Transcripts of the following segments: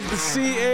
with the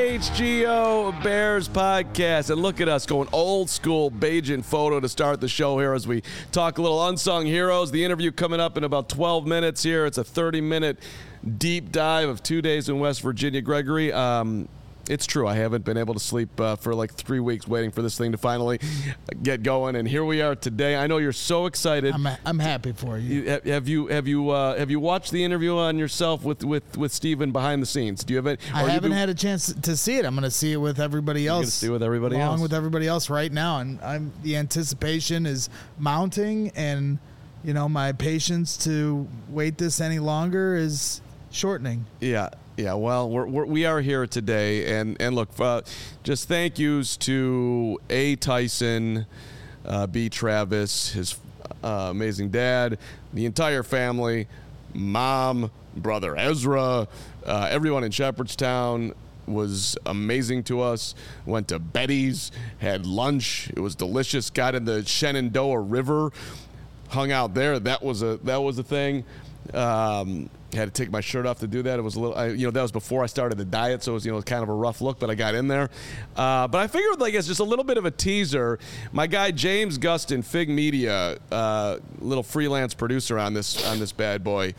CHGO Bears podcast. And look at us going old school Bajan photo to start the show here as we talk a little unsung heroes. The interview coming up in about 12 minutes here. It's a 30-minute deep dive of 2 days in West Virginia. Gregory, it's true. I haven't been able to sleep for like 3 weeks waiting for this thing to finally get going, and here we are today. I know you're so excited. I'm happy for you. Have you watched the interview on yourself with Steven behind the scenes? Do you have it? I haven't had a chance to see it. I'm going to see it with everybody else. You're going to see it with everybody else, along with everybody else right now, and the anticipation is mounting, and my patience to wait this any longer is shortening. Yeah. Yeah, well, we are here today, and look, just thank yous to A. Tyson, B. Travis, his amazing dad, the entire family, mom, brother Ezra, everyone in Shepherdstown was amazing to us. Went to Betty's, had lunch. It was delicious. Got in the Shenandoah River, hung out there. That was a thing. Had to take my shirt off to do that. It was a little, that was before I started the diet, so it was, kind of a rough look, but I got in there. But I figured, as just a little bit of a teaser, my guy James Gustin, Fig Media, little freelance producer on this bad boy,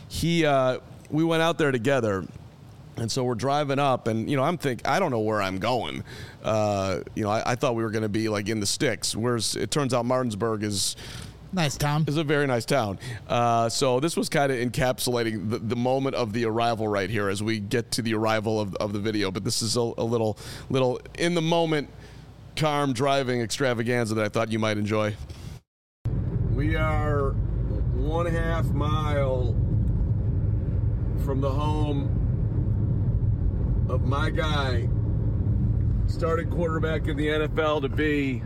we went out there together. And so we're driving up, and I don't know where I'm going. I thought we were going to be in the sticks. Whereas it turns out Martinsburg is nice town. It's a very nice town. So this was kind of encapsulating the moment of the arrival right here as we get to the arrival of the video. But this is a little in the moment calm driving extravaganza that I thought you might enjoy. We are 1.5 mile from the home of my guy, starting quarterback in the NFL to be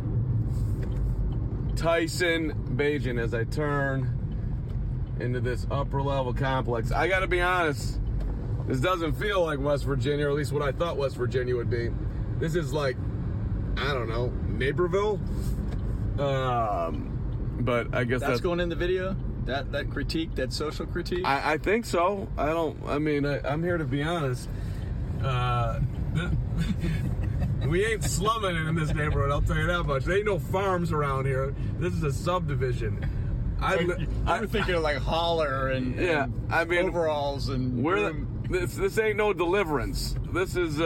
Tyson Bajan, as I turn into this upper level complex. I gotta be honest, this doesn't feel like West Virginia, or at least what I thought West Virginia would be. This is like, I don't know, Naperville? But I guess that's going in the video? That critique, that social critique? I think so. I'm here to be honest. We ain't slumming it in this neighborhood, I'll tell you that much. There ain't no farms around here. This is a subdivision. I was thinking of Holler and overalls and this ain't no Deliverance. This is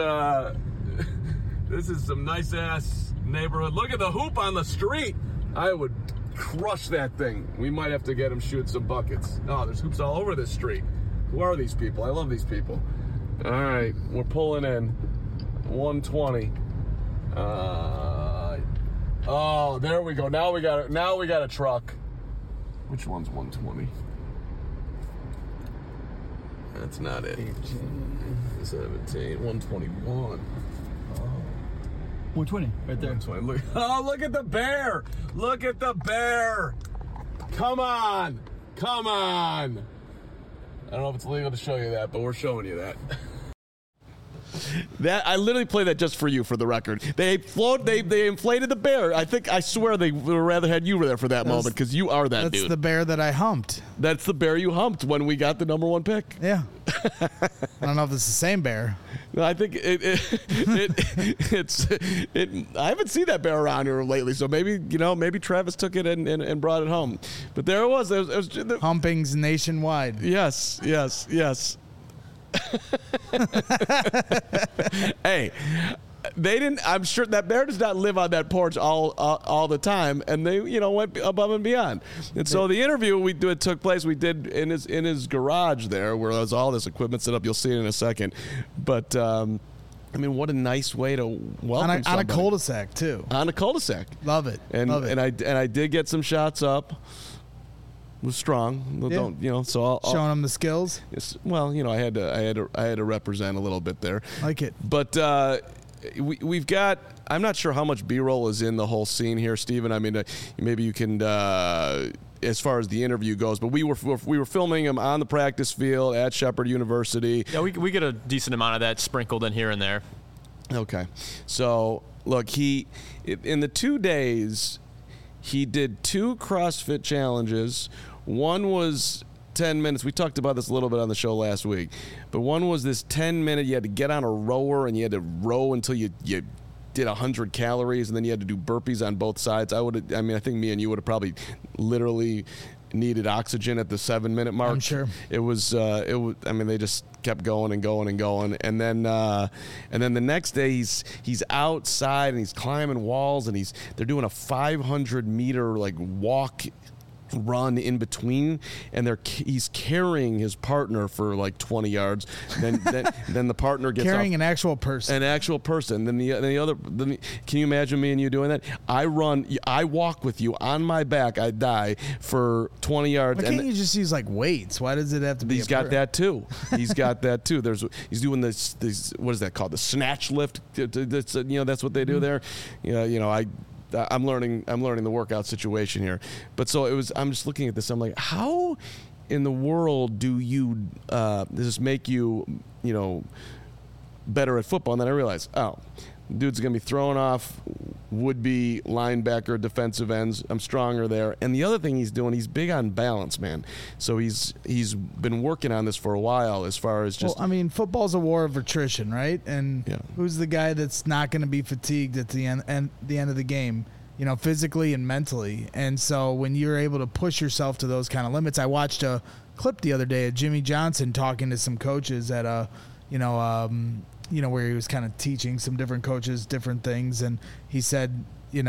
some nice ass neighborhood. Look at the hoop on the street. I would crush that thing. We might have to get him shoot some buckets. Oh, there's hoops all over this street. Who are these people? I love these people. All right, we're pulling in 120. Oh, there we go. Now we got a truck. Which one's 120? That's not it. 18, 17, 121. 120, right there. 120. Look at the bear. Look at the bear. Come on. I don't know if it's legal to show you that, but we're showing you that. That I literally play that just for you, for the record. They inflated the bear. I swear they would rather had you there for that moment, because you are that dude. That's the bear that I humped. That's the bear you humped when we got the number 1 pick. Yeah. I don't know if it's the same bear. No, I think it's I haven't seen that bear around here lately, so maybe Travis took it and brought it home. But there it was. It was Humpings nationwide. Yes. Hey, they didn't. I'm sure that bear does not live on that porch all the time, and they went above and beyond. And so the interview took place. We did in his garage there, where there's all this equipment set up. You'll see it in a second. But what a nice way to welcome on a cul-de-sac too. On a cul-de-sac, love it. And I did get some shots up. Was strong. Yeah. So I'll showing them the skills. Yes, well, I had to represent a little bit there. Like it. But we've got. I'm not sure how much B-roll is in the whole scene here, Steven. Maybe you can, as far as the interview goes. But we were filming him on the practice field at Shepherd University. Yeah, we get a decent amount of that sprinkled in here and there. Okay, so look, in the 2 days, he did 2 CrossFit challenges. One was 10 minutes. We talked about this a little bit on the show last week. But one was this 10-minute, you had to get on a rower and you had to row until you did 100 calories, and then you had to do burpees on both sides. I think me and you would have probably literally needed oxygen at the 7-minute mark. I'm sure. It was. They just kept going and going and going, and then the next day he's outside and he's climbing walls and they're doing a 500-meter like walk run in between, and he's carrying his partner for like 20 yards. Then the partner gets carrying off, an actual person. Then can you imagine me and you doing that? I walk with you on my back. I die for 20 yards. Why can't you just use like weights? Why does it have to be? He's got that too. He's got that too. He's doing this. What is that called? The snatch lift. That's what they do there. I'm learning the workout situation here. But so I'm just looking at this. I'm like, how in the world do you does this make you better at football? And then I realized, dude's going to be throwing off would-be linebacker defensive ends. I'm stronger there. And the other thing he's doing, he's big on balance, man. So he's been working on this for a while as far as just... Well, football's a war of attrition, right? And who's the guy that's not going to be fatigued at the end of the game, physically and mentally? And so when you're able to push yourself to those kind of limits... I watched a clip the other day of Jimmy Johnson talking to some coaches at where he was kind of teaching some different coaches different things, and he said,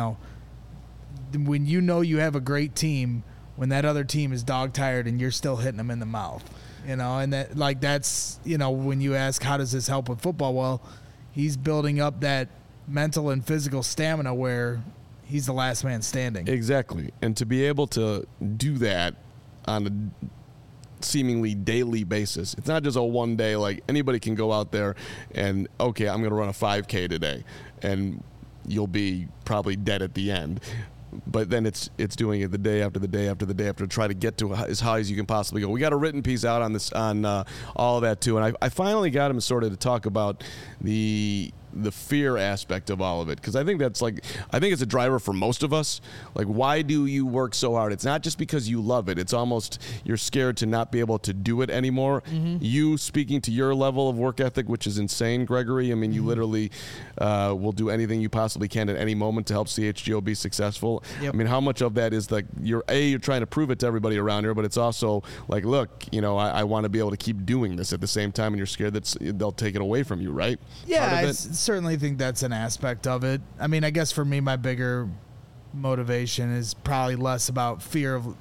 when you have a great team, when that other team is dog tired and you're still hitting them in the mouth, and that's when you ask how does this help with football, well, he's building up that mental and physical stamina where he's the last man standing. Exactly, and to be able to do that on a seemingly daily basis. It's not just a one day, like anybody can go out there and, okay, I'm going to run a 5K today, and you'll be probably dead at the end. But then it's doing it the day after the day after the day after to try to get to as high as you can possibly go. We got a written piece out on this, on all of that too. And I finally got him sort of to talk about the fear aspect of all of it, because I think it's a driver for most of us. Like, why do you work so hard? It's not just because you love it. It's almost you're scared to not be able to do it anymore. Mm-hmm. You speaking to your level of work ethic, which is insane, Gregory. I mean, you literally will do anything you possibly can at any moment to help CHGO be successful. Yep. I mean, how much of that is like you're trying to prove it to everybody around here, but it's also like, look, I want to be able to keep doing this at the same time, and you're scared that they'll take it away from you, right? Yeah, certainly think that's an aspect of it. I mean, I guess for me, my bigger motivation is probably less about fear of.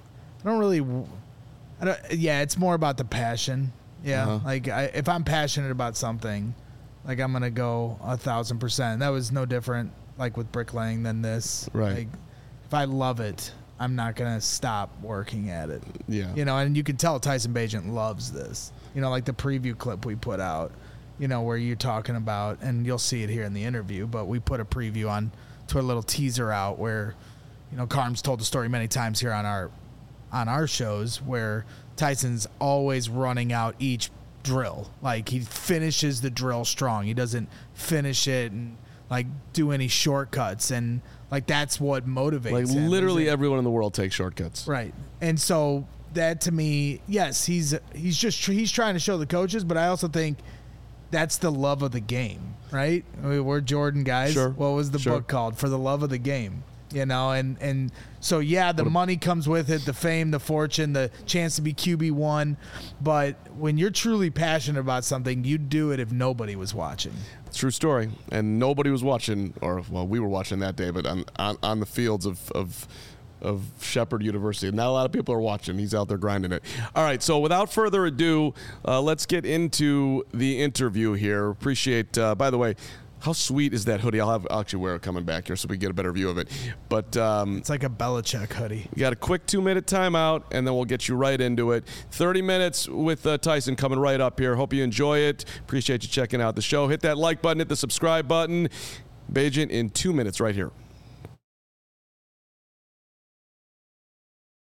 It's more about the passion. Yeah, uh-huh. Like if I'm passionate about something, like I'm gonna go 1,000%. That was no different, like with bricklaying, than this. Right. Like, if I love it, I'm not gonna stop working at it. Yeah. And you can tell Tyson Bagent loves this. Like the preview clip we put out. Where you're talking about, and you'll see it here in the interview, but we put a preview on to a little teaser out where, Carm's told the story many times here on our shows where Tyson's always running out each drill. Like, he finishes the drill strong. He doesn't finish it and like do any shortcuts, and like that's what motivates like him. Literally everyone in the world takes shortcuts. Right. And so that to me, yes, he's trying to show the coaches, but I also think that's the love of the game, right? I mean, we're Jordan guys. Sure. What was the book called? For the Love of the Game, and so the money comes with it, the fame, the fortune, the chance to be QB1. But when you're truly passionate about something, you'd do it if nobody was watching. True story. And nobody was watching, we were watching that day, but on the fields of Shepherd University. Not a lot of people are watching. He's out there grinding it. All right, so without further ado, let's get into the interview here. Appreciate, by the way, how sweet is that hoodie? I'll actually wear it coming back here so we get a better view of it. But it's like a Belichick hoodie. We got a quick 2-minute timeout, and then we'll get you right into it. 30 minutes with Tyson coming right up here. Hope you enjoy it. Appreciate you checking out the show. Hit that like button, hit the subscribe button. Bagent in 2 minutes right here.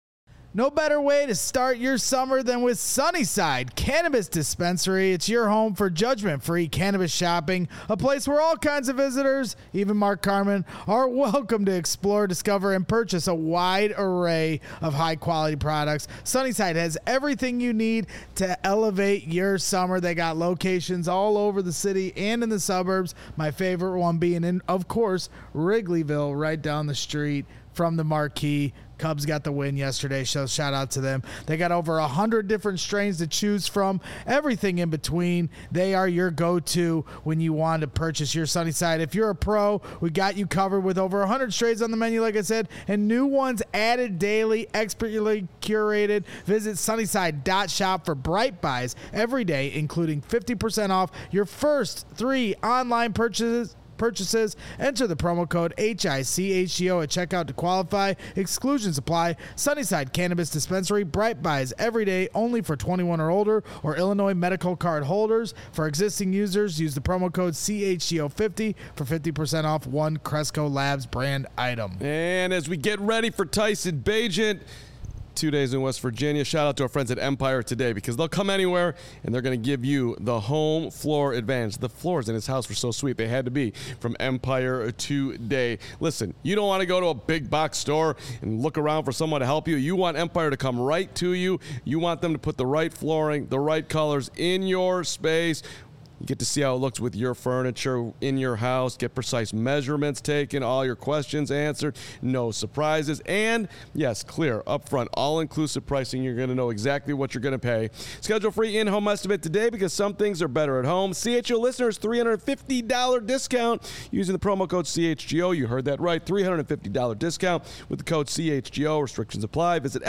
No better way to start your summer than with Sunnyside Cannabis Dispensary. It's your home for judgment-free cannabis shopping, a place where all kinds of visitors, even Mark Carman, are welcome to explore, discover, and purchase a wide array of high-quality products. Sunnyside has everything you need to elevate your summer. They got locations all over the city and in the suburbs, my favorite one being in, of course, Wrigleyville, right down the street from the Marquee. Cubs got the win yesterday, so shout out to them. They got over 100 different strains to choose from, everything in between. They are your go-to when you want to purchase your Sunnyside. If you're a pro, we got you covered with over 100 strains on the menu, like I said, and new ones added daily, expertly curated. Visit sunnyside.shop for bright buys every day, including 50% off your first 3 online purchases. Enter the promo code HICHGO at checkout to qualify. Exclusions apply. Sunnyside Cannabis Dispensary. Bright buys every day, only for 21 or older or Illinois medical card holders. For existing users, use the promo code CHGO50 for 50% off one Cresco Labs brand item. And as we get ready for Tyson Bagent, 2 days in West Virginia, shout out to our friends at Empire today, because they'll come anywhere and they're going to give you the home floor advantage. The floors in his house were so sweet, they had to be from Empire today. Listen, you don't want to go to a big box store and look around for someone to help you. You want Empire to come right to you. You want them to put the right flooring, the right colors in your space. You get to see how it looks with your furniture in your house, get precise measurements taken, all your questions answered, no surprises, and yes, clear, upfront, all-inclusive pricing. You're going to know exactly what you're going to pay. Schedule free in-home estimate today, because some things are better at home. CHGO listeners, $350 discount using the promo code CHGO. You heard that right, $350 discount with the code CHGO. Restrictions apply. Visit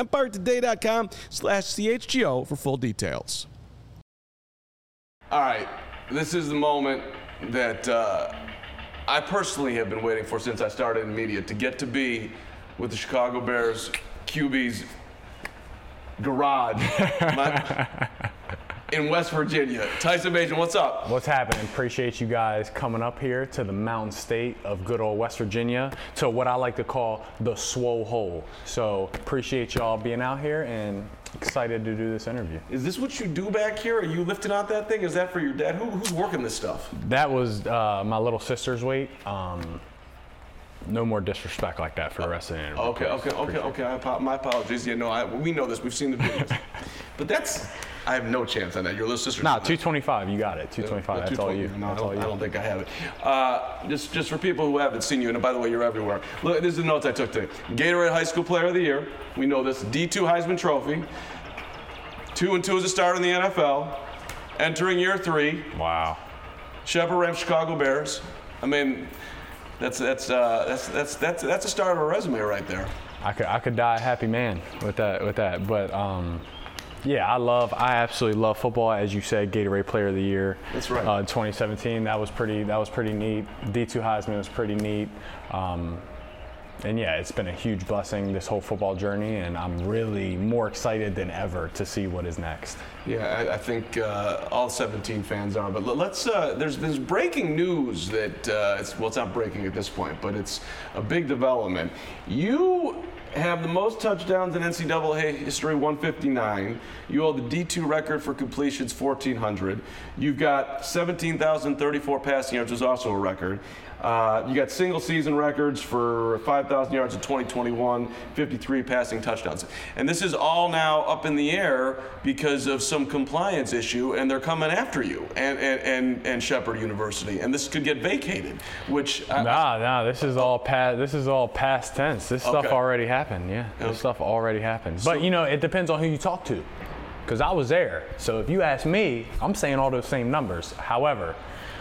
EmpireToday.com/CHGO for full details. All right. This is the moment that I personally have been waiting for since I started in media, to get to be with the Chicago Bears QB's garage in West Virginia. Tyson Bagent, what's up? What's happening? Appreciate you guys coming up here to the mountain state of good old West Virginia, to what I like to call the Swole Hole. So appreciate y'all being out here and excited to do this interview. Is this what you do back here? Are you lifting out that thing? Is that for your dad? Who's working this stuff? That was my little sister's weight. No more disrespect like that for the rest of the interview. Okay. My apologies. Yeah, no, we know this. We've seen the videos. But I have no chance on that. Your little sister. Nah, 225. You got it. 225. That's all you. No, I don't think I have it. Just for people who haven't seen you, and by the way, you're everywhere. Look, this is the notes I took today. Gatorade High School Player of the Year. We know this. D2 Heisman Trophy. 2-2 as a starter in the NFL. Entering year 3. Wow. Shepherd Ranch Chicago Bears. I mean, that's a start of a resume right there. I could die a happy man with that. But yeah, I absolutely love football. As you said, Gatorade Player of the Year. That's right. In 2017, that was pretty neat. D2 Heisman was pretty neat. And yeah, it's been a huge blessing, this whole football journey, and I'm really more excited than ever to see what is next. Yeah, I think all 17 fans are. But let's. There's breaking news that it's not breaking at this point, but it's a big development. You have the most touchdowns in NCAA history, 159. You hold the D2 record for completions, 1,400. You've got 17,034 passing yards, which is also a record. You got single season records for 5,000 yards in 2021, 53 passing touchdowns. And this is all now up in the air because of some compliance issue, and they're coming after you and Shepherd University. And this could get vacated, which this is all past tense. This stuff already happened. Yeah. This stuff already happened. But it depends on who you talk to. Because I was there. So if you ask me, I'm saying all those same numbers. However,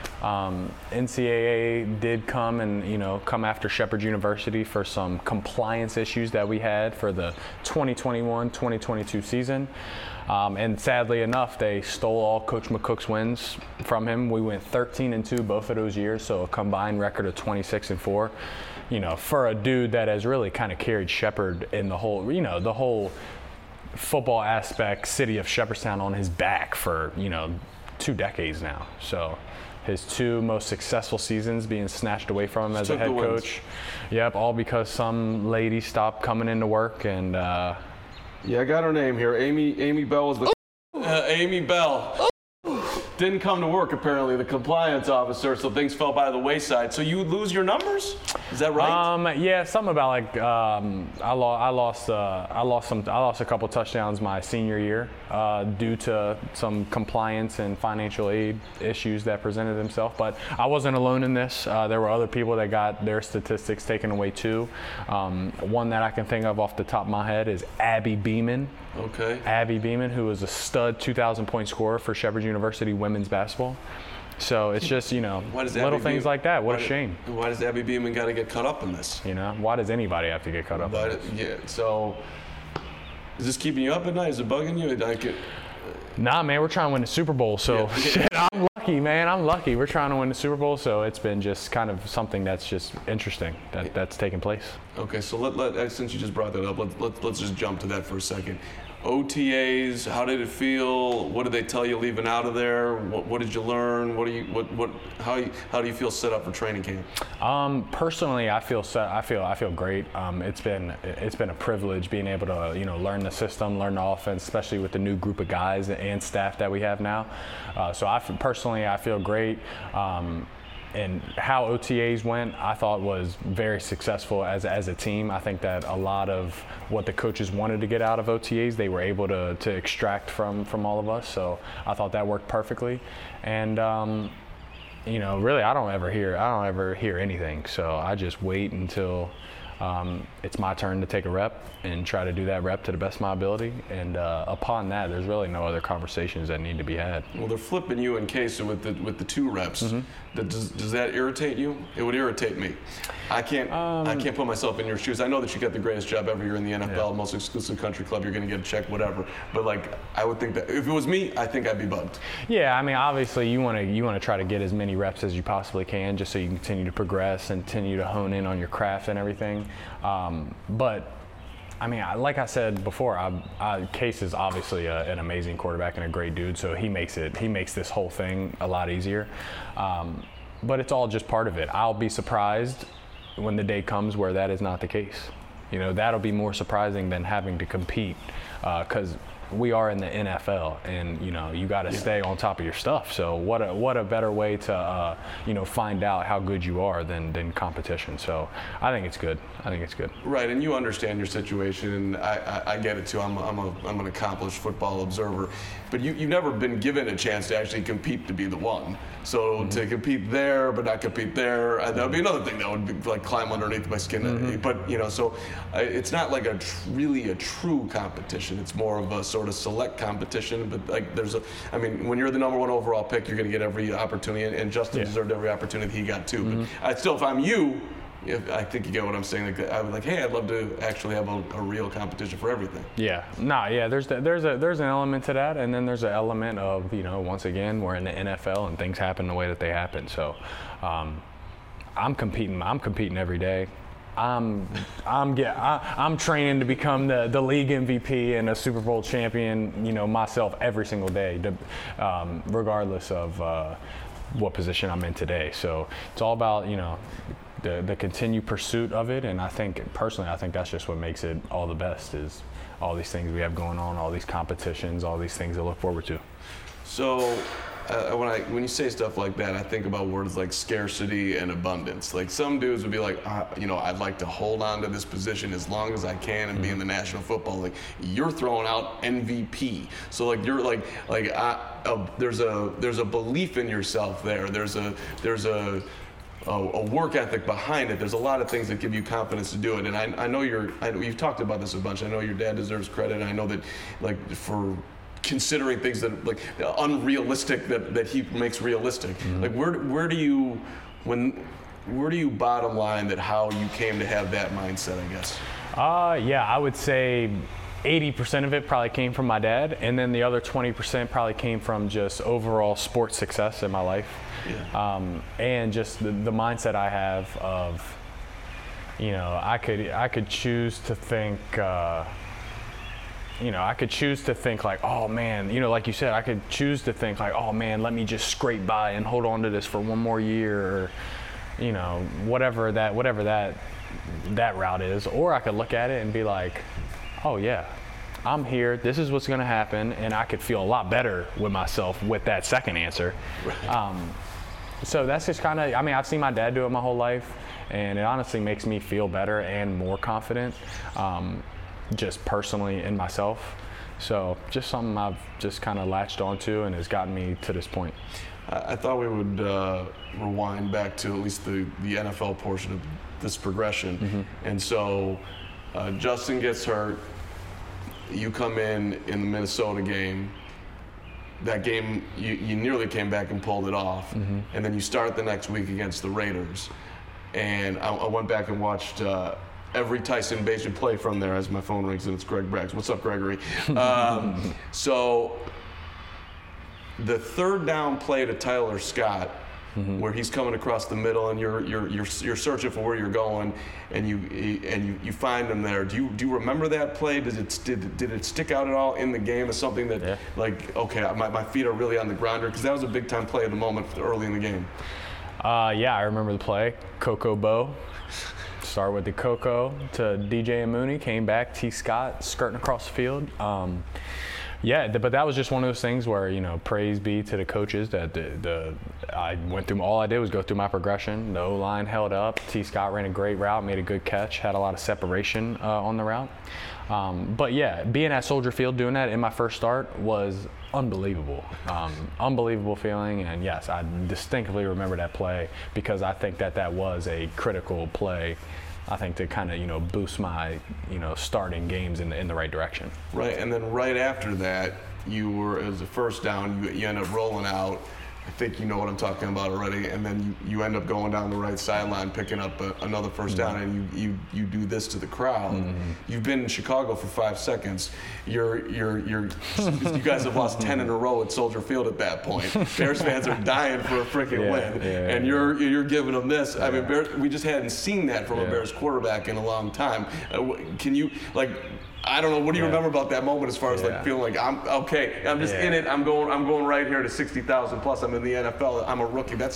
NCAA did come after Shepherd University for some compliance issues that we had for the 2021-2022 season. And sadly enough, they stole all Coach McCook's wins from him. We went 13-2 both of those years, so a combined record of 26-4. For a dude that has really kind of carried Shepherd in the whole football aspect, city of Shepherdstown on his back for 2 decades now. So his 2 most successful seasons being snatched away from him as a head coach. Yep, all because some lady stopped coming into work and Yeah, I got her name here. Amy Bell was the Amy Bell. Didn't come to work, apparently, the compliance officer, so things fell by the wayside. So you lose your numbers? Is that right? Yeah, something about like I lost a couple touchdowns my senior year due to some compliance and financial aid issues that presented themselves. But I wasn't alone in this. There were other people that got their statistics taken away too. One that I can think of off the top of my head is Abby Beeman. Okay. Abby Beeman, who was a stud 2,000-point scorer for Shepherd University women's basketball. So it's just, little things like that. What a shame. Why does Abby Beeman got to get caught up in this? Why does anybody have to get caught up in this? Yeah, so is this keeping you up at night? Is it bugging you? Nah, man, we're trying to win the Super Bowl, so I'm lucky, man. I'm lucky. We're trying to win the Super Bowl, so it's been just kind of something that's just interesting that's taking place. Okay, so since you just brought that up, let's just jump to that for a second. OTAs, how did it feel? What did they tell you leaving out of there? What did you learn? How do you feel set up for training camp? Personally, I feel set. I feel great. It's been a privilege being able to learn the system, learn the offense, especially with the new group of guys and staff that we have now. So I feel great. And how OTAs went, I thought was very successful as a team. I think that a lot of what the coaches wanted to get out of OTAs, they were able to extract from all of us. So I thought that worked perfectly. And really, I don't ever hear anything. So I just wait until it's my turn to take a rep and try to do that rep to the best of my ability. And upon that, there's really no other conversations that need to be had. Well, they're flipping you and Case with the 2 reps. Mm-hmm. Does that irritate you? It would irritate me. I can't put myself in your shoes. I know that you get the greatest job every year in the NFL, most exclusive country club. You're going to get a check, whatever. But I would think that if it was me, I think I'd be bugged. Yeah, I mean, obviously you want to try to get as many reps as you possibly can, just so you can continue to progress and continue to hone in on your craft and everything. But I mean, like I said before, Case is obviously an amazing quarterback and a great dude, so he makes this whole thing a lot easier. But it's all just part of it. I'll be surprised when the day comes where that is not the case. That'll be more surprising than having to compete, because we are in the NFL, and you got to stay on top of your stuff. So what a better way to find out how good you are than competition. So I think it's good. Right, and you understand your situation, and I get it too. I'm an accomplished football observer, but you've never been given a chance to actually compete to be the one. So to compete there but not compete there, that would be another thing that would be like climb underneath my skin. Mm-hmm. But so it's not like really a true competition. It's more of a sort of select competition. But when you're the number 1 overall pick, you're going to get every opportunity, and Justin deserved every opportunity he got too. Mm-hmm. But if I'm you, I think you get what I'm saying. I would hey, I'd love to actually have a real competition for everything. Yeah, there's an element to that, and then there's an element of once again we're in the NFL and things happen the way that they happen. So I'm competing every day. I'm training to become the league MVP and a Super Bowl champion. Myself every single day, regardless of what position I'm in today. So it's all about the continued pursuit of it, and I think that's just what makes it all the best, is all these things we have going on, all these competitions, all these things to look forward to. So when you say stuff like that, I think about words like scarcity and abundance. Like some dudes would be like, I'd like to hold on to this position as long as I can and be in the National Football League. You're throwing out MVP, so you're there's a belief in yourself there. There's a work ethic behind it. There's a lot of things that give you confidence to do it. And I know you've talked about this a bunch. I know your dad deserves credit. I know that for considering things that unrealistic that he makes realistic. Mm-hmm. Where do you bottom line that how you came to have that mindset, I guess? I would say 80% of it probably came from my dad, and then the other 20% probably came from just overall sports success in my life. Yeah. And just the mindset I have of, I could choose to think, like, oh man, like you said, I could choose to think like, oh man, let me just scrape by and hold on to this for one more year, or, whatever that route is. Or I could look at it and be like, oh yeah, I'm here. This is what's going to happen. And I could feel a lot better with myself with that second answer. Right. So that's just kind of, I mean, I've seen my dad do it my whole life, and it honestly makes me feel better and more confident, just personally in myself. So just something I've just kind of latched onto and has gotten me to this point. I thought we would rewind back to at least the NFL portion of this progression. Mm-hmm. And so Justin gets hurt. You come in the Minnesota game. That game, you nearly came back and pulled it off. Mm-hmm. And then you start the next week against the Raiders. And I went back and watched every Tyson Bagent play from there as my phone rings, and it's Greg Braggs. What's up, Gregory? So the third down play to Tyler Scott, mm-hmm. where he's coming across the middle and you're searching for where you're going, and you find him there. Do you remember that play? Did it stick out at all in the game as something that like, okay, my feet are really on the ground here, because that was a big time play at the moment early in the game. Yeah, I remember the play. Coco Bo. Start with the Coco to DJ and Mooney. Came back. T. Scott skirting across the field. Yeah, but that was just one of those things where, praise be to the coaches that I went through. All I did was go through my progression. The O-line held up. T. Scott ran a great route, made a good catch, had a lot of separation on the route. But yeah, being at Soldier Field doing that in my first start was unbelievable. Unbelievable feeling, and yes, I distinctly remember that play because I think that was a critical play, I think, to kind of boost my starting games in the right direction. Right, and then right after that, you were, as a first down, you end up rolling out. I think you know what I'm talking about already, and then you end up going down the right sideline, picking up another first down, and you do this to the crowd. Mm-hmm. You've been in Chicago for 5 seconds. You guys have lost 10 in a row at Soldier Field at that point. Bears fans are dying for a freaking win, and you're giving them this. I mean, we just hadn't seen that from a Bears quarterback in a long time. Can you, like, I don't know. What do you remember about that moment as far as like feeling like I'm okay? I'm just in it. I'm going right here to 60,000 plus. I'm in the NFL. I'm a rookie. That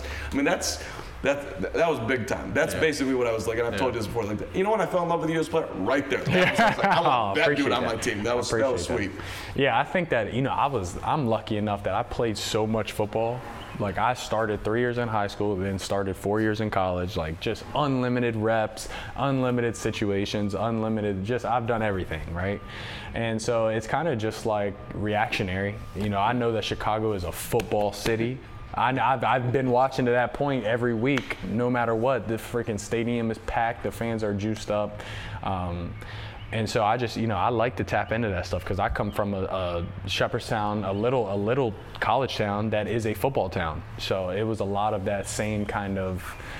was big time. That's basically what I was like. And I've told you this before. Like, you know when I fell in love with you as a player? Right there. I was like, I want that dude on my team. That was sweet. Yeah, I think that I'm lucky enough that I played so much football. Like, I started 3 years in high school, then started 4 years in college, like just unlimited reps, unlimited situations, I've done everything, right? And so it's kind of just like reactionary. I know that Chicago is a football city. I've been watching to that point every week, no matter what. The freaking stadium is packed, the fans are juiced up. And so I just, I like to tap into that stuff because I come from a Shepherdstown, a little college town that is a football town. So it was a lot of that same kind of,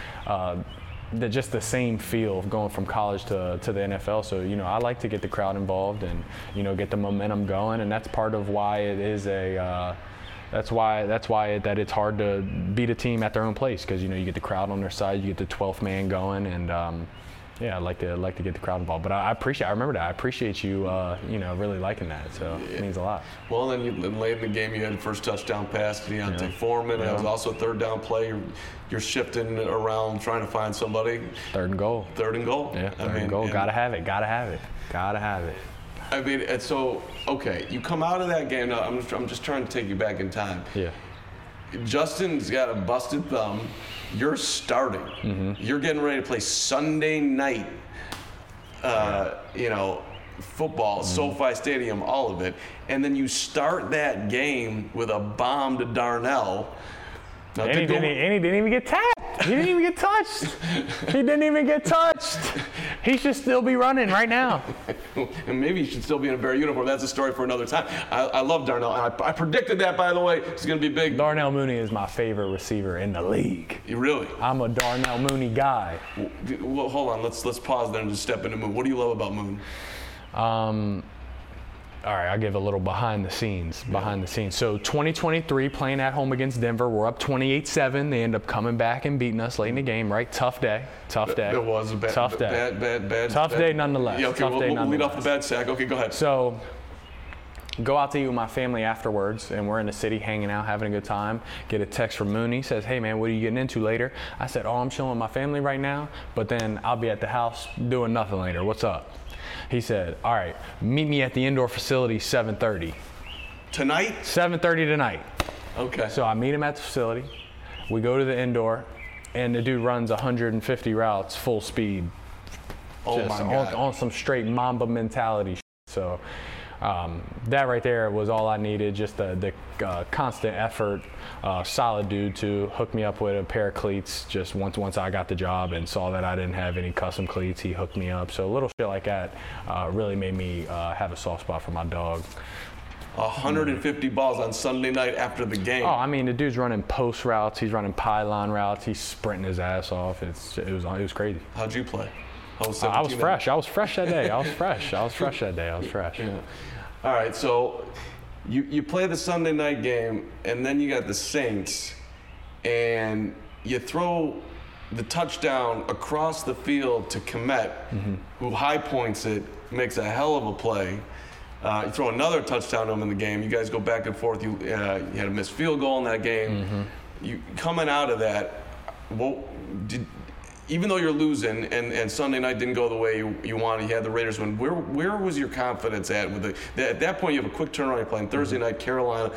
just the same feel of going from college to the NFL. So, I like to get the crowd involved and, get the momentum going. And that's part of why it is that's why it's hard to beat a team at their own place because, you get the crowd on their side, you get the 12th man going, and yeah, I like to get the crowd involved, but I remember that. I appreciate you, really liking that. So it means a lot. Well, then late in the game, you had the first touchdown pass to Deontay Foreman. That was also a third down play. You're shifting around, trying to find somebody. Third and goal. Yeah, third and goal. Gotta have it. I mean, and so okay, you come out of that game. Now, I'm just trying to take you back in time. Yeah. Justin's got a busted thumb. You're starting. Mm-hmm. You're getting ready to play Sunday night, football, SoFi Stadium, all of it. And then you start that game with a bomb to Darnell. Now, and he didn't even get tapped. He didn't even get touched. He should still be running right now. And maybe he should still be in a Bear uniform. That's a story for another time. I love Darnell. And I predicted that, by the way. It's going to be big. Darnell Mooney is my favorite receiver in the league. Really? I'm a Darnell Mooney guy. Well, hold on. Let's pause there and just step into Moon. What do you love about Moon? All right, I'll give a little behind the scenes. So 2023, playing at home against Denver, we're up 28-7. They end up coming back and beating us late in the game, right? Tough day. It was a tough day nonetheless. Yeah, okay, we'll lead off the bad sack. Okay, go ahead. So go out to eat with my family afterwards, and we're in the city hanging out, having a good time. Get a text from Mooney, says, hey man, what are you getting into later? I said, I'm chilling with my family right now, but then I'll be at the house doing nothing later. What's up? He said, all right, meet me at the indoor facility 7:30. Tonight? 7:30 tonight. Okay. So I meet him at the facility. We go to the indoor, and the dude runs 150 routes full speed. Oh just my God. on some straight Mamba mentality. So that right there was all I needed, just the constant effort. Solid dude to hook me up with a pair of cleats just once I got the job and saw that I didn't have any custom cleats. He hooked me up. So a little shit like that really made me have a soft spot for my dog. 150 balls on Sunday night after the game. Oh, I mean, the dude's running post routes. He's running pylon routes. He's sprinting his ass off. It was crazy. How'd you play? I was fresh. I was fresh that day. I was fresh. Yeah. All right, so you play the Sunday night game, and then you got the Saints, and you throw the touchdown across the field to Kmet, who high points it, makes a hell of a play. You throw another touchdown to him in the game. You guys go back and forth. You had a missed field goal in that game. You coming out of that, even though you're losing and Sunday night didn't go the way you wanted, you had the Raiders win. Where was your confidence at? At that point, you have a quick turnaround. You're playing Thursday night, Carolina.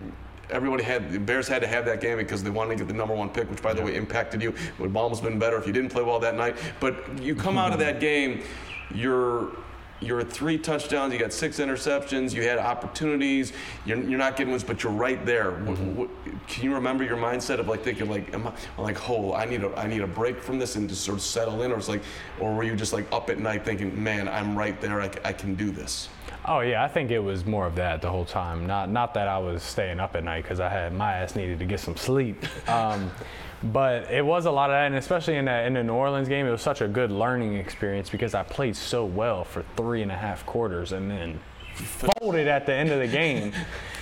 The Bears had to have that game because they wanted to get the number 1 pick, which, by the way, impacted you. It would have almost been better if you didn't play well that night. But you come out of that game, you're at 3 touchdowns, you got 6 interceptions, you had opportunities, you're not getting wins, but you're right there. Can you remember your mindset of thinking I need a break from this and just sort of settle in, or were you just up at night thinking, man, I'm right there, I can do this? Oh yeah, I think it was more of that the whole time. Not that I was staying up at night because my ass needed to get some sleep. But it was a lot of that, and especially in the New Orleans game, it was such a good learning experience because I played so well for 3.5 quarters and then folded at the end of the game.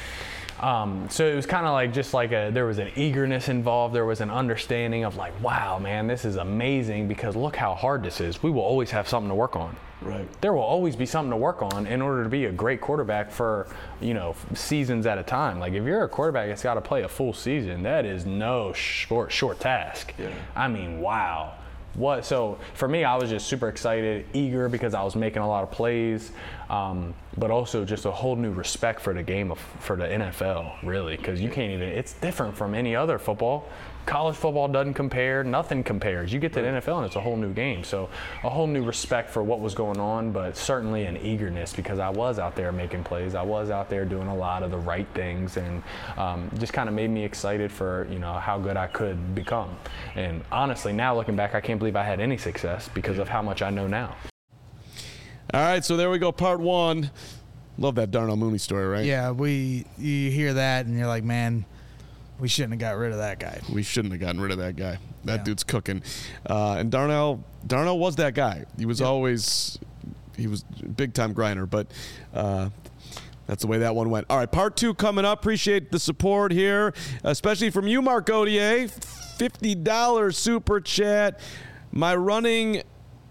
So it was kind of there was an eagerness involved. There was an understanding of wow, man, this is amazing because look how hard this is. We will always have something to work on. Right. There will always be something to work on in order to be a great quarterback for, seasons at a time. If you're a quarterback that's got to play a full season, that is no short task. Yeah. I mean, wow. So for me, I was just super excited, eager because I was making a lot of plays, but also just a whole new respect for the game for the NFL, really, because it's different from any other football. College football doesn't compare, nothing compares. You get to the NFL and it's a whole new game. So a whole new respect for what was going on, but certainly an eagerness because I was out there making plays. I was out there doing a lot of the right things and just kind of made me excited for, how good I could become. And honestly, now looking back, I can't believe I had any success because of how much I know now. All right, so there we go, part 1. Love that Darnell Mooney story, right? Yeah, you hear that and you're like, man, we shouldn't have got rid of that guy. We shouldn't have gotten rid of that guy. That dude's cooking. And Darnell was that guy. He was always a big-time grinder, but that's the way that one went. All right, part 2 coming up. Appreciate the support here, especially from you, Mark Gauthier. $50 super chat. My running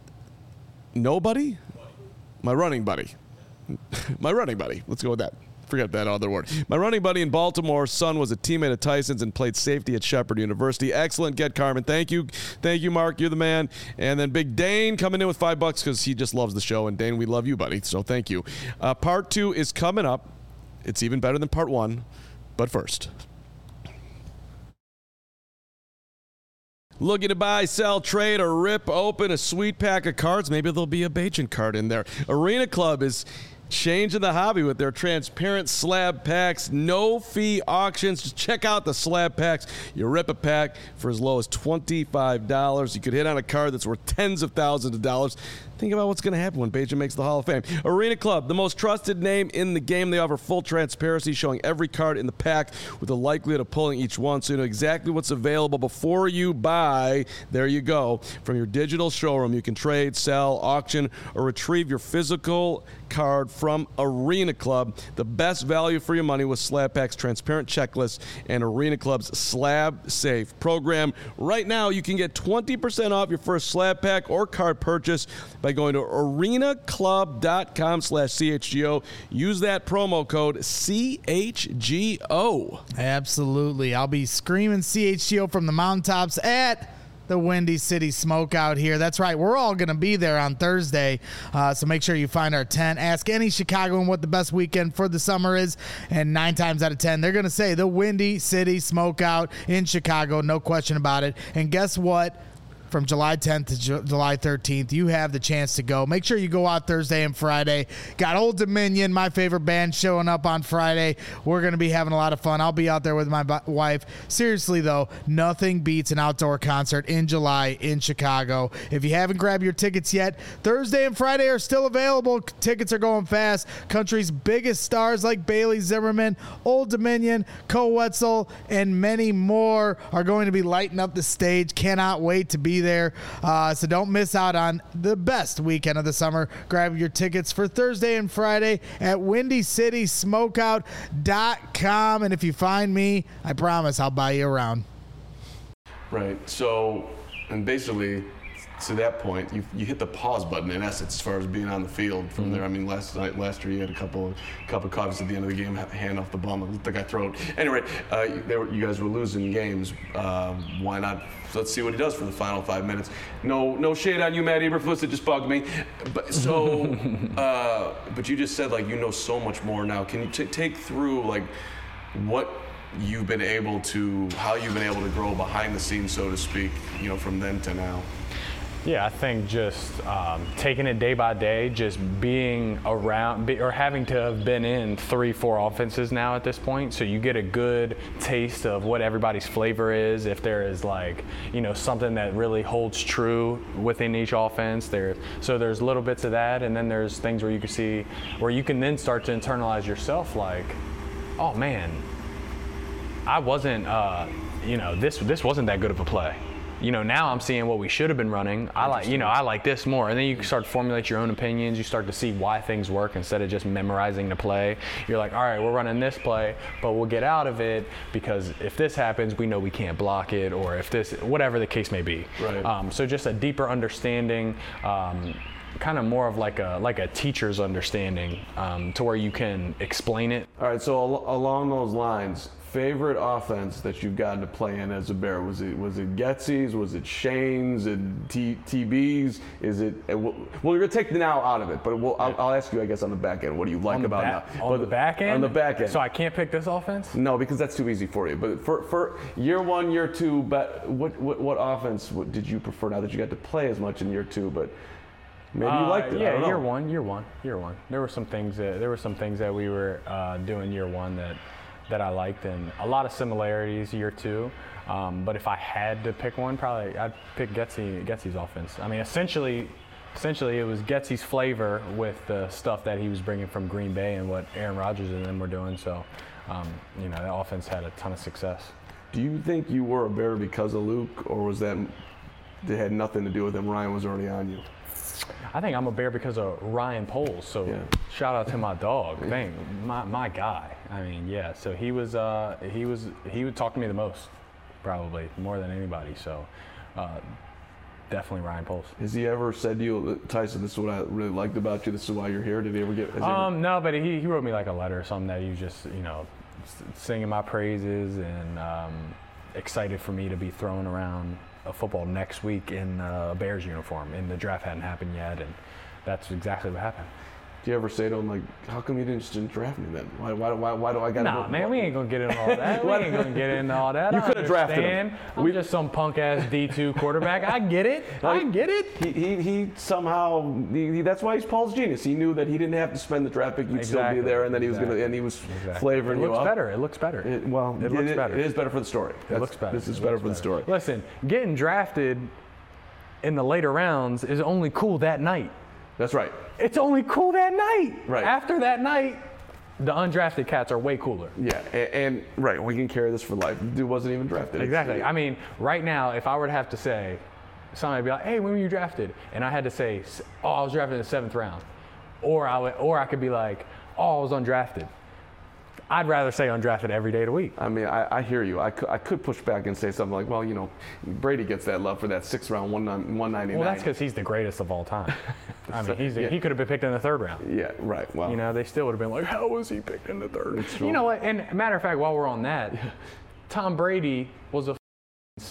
buddy. Let's go with that. Forget that other word. My running buddy in Baltimore's son was a teammate of Tyson's and played safety at Shepherd University. Excellent get, Carmen. Thank you, Mark. You're the man. And then Big Dane coming in with $5 because he just loves the show. And Dane, we love you, buddy. So thank you. Part 2 is coming up. It's even better than part 1. But first, looking to buy, sell, trade, or rip open a sweet pack of cards? Maybe there'll be a Bajan card in there. Arena Club is changing the hobby with their transparent slab packs, no fee auctions. Just check out the slab packs. You rip a pack for as low as $25. You could hit on a card that's worth tens of thousands of dollars. Think about what's going to happen when Bajan makes the Hall of Fame. Arena Club, the most trusted name in the game. They offer full transparency, showing every card in the pack with the likelihood of pulling each one, so you know exactly what's available before you buy. There you go. From your digital showroom, you can trade, sell, auction, or retrieve your physical card from Arena Club. The best value for your money with Slab Pack's transparent checklist and Arena Club's Slab Safe program. Right now, you can get 20% off your first slab pack or card purchase by going to arenaclub.com/CHGO. Use that promo code CHGO. Absolutely. I'll be screaming CHGO from the mountaintops at the Windy City Smokeout here. That's right. We're all going to be there on Thursday. So make sure you find our tent. Ask any Chicagoan what the best weekend for the summer is. And 9 times out of 10, they're going to say the Windy City Smokeout in Chicago. No question about it. And guess what? From July 10th to July 13th, you have the chance to go. Make sure you go out Thursday and Friday. Got Old Dominion, my favorite band, showing up on Friday. We're going to be having a lot of fun. I'll be out there with my wife. Seriously, though, nothing beats an outdoor concert in July in Chicago. If you haven't grabbed your tickets yet, Thursday and Friday are still available. Tickets are going fast. Country's biggest stars like Bailey Zimmerman, Old Dominion, Co Wetzel, and many more are going to be lighting up the stage. Cannot wait to be there. So don't miss out on the best weekend of the summer. Grab your tickets for Thursday and Friday at WindyCitySmokeout.com. And if you find me, I promise I'll buy you around. Right. So, and basically, to that point, you hit the pause button in essence as far as being on the field from there. I mean, last year you had a couple of coffees at the end of the game, hand off the bum, it looked like I throw it. Anyway, you guys were losing games. Why not? Let's see what he does for the final 5 minutes. No shade on you, Matt Eberflus. It just bugged me. But but you just said like you know so much more now. Can you take through like what you've been able to, how you've been able to grow behind the scenes, so to speak, you know, from then to now? Yeah, I think just taking it day by day, just being around or having to have been in 3-4 offenses now at this point, so you get a good taste of what everybody's flavor is. If there is like, you know, something that really holds true within each offense, so there's little bits of that, and then there's things where you can see, where you can then start to internalize yourself, like, oh man, I wasn't, you know, this wasn't that good of a play. You know, now I'm seeing what we should have been running. I like this more. And then you start to formulate your own opinions. You start to see why things work instead of just memorizing the play. You're like, all right, we're running this play, but we'll get out of it because if this happens, we know we can't block it, or if this, whatever the case may be. Right. So just a deeper understanding, kind of more of like a teacher's understanding, to where you can explain it. All right, so along those lines, favorite offense that you've gotten to play in as a Bear? Was it Getsy's? Was it Shane's? And TB's? Is it? Well, you're gonna take the now out of it, but I'll ask you, I guess, on the back end. What do you like about now? On the back end? On the back end. So I can't pick this offense? No, because that's too easy for you. But for year one, year two, but what offense did you prefer now that you got to play as much in year two? But maybe you liked it. Yeah, I don't know. year one. There were some things that we were doing year one that I liked, and a lot of similarities year two. But if I had to pick one, probably I'd pick Getsy's offense. I mean, essentially it was Getsy's flavor with the stuff that he was bringing from Green Bay and what Aaron Rodgers and them were doing. So, you know, the offense had a ton of success. Do you think you were a Bear because of Luke, or was that it had nothing to do with him? Ryan was already on you. I think I'm a Bear because of Ryan Poles. So yeah. Shout out to my dog. Dang, my guy. I mean, yeah. So he would talk to me the most, probably more than anybody. So definitely Ryan Poles. Has he ever said to you, Tyson, this is what I really liked about you, this is why you're here? Did he ever get? No, but he wrote me like a letter or something that he was just, you know, singing my praises and excited for me to be throwing around a football next week in a Bears uniform, and the draft hadn't happened yet, and that's exactly what happened. Do you ever say to him, like, how come you didn't draft me then? Why do I got to? Nah, man, we ain't gonna get into all that. We ain't gonna get into all that. You could have drafted him. I'm just some punk ass D2 quarterback. I get it. I get it. He somehow that's why he's Paul's genius. He knew that he didn't have to spend the draft pick. You'd still be there, and then he was flavoring you up. It looks better. It looks better. It is better for the story. It looks better. This is better for the story. Listen, getting drafted in the later rounds is only cool that night. That's right. It's only cool that night. Right. After that night, the undrafted cats are way cooler. Yeah, and right, we can carry this for life. Dude wasn't even drafted. Exactly. I mean, right now, if I were to have to say, somebody would be like, hey, when were you drafted? And I had to say, oh, I was drafted in the 7th round. Or I could be like, oh, I was undrafted. I'd rather say undrafted every day of the week. I mean, I hear you. I could push back and say something like, well, you know, Brady gets that love for that 6th round 199. Well, that's because he's the greatest of all time. I mean, he could have been picked in the 3rd round. Yeah, right. Well, you know, they still would have been like, how was he picked in the 3rd? It's true. You know what? And matter of fact, while we're on that, Tom Brady was a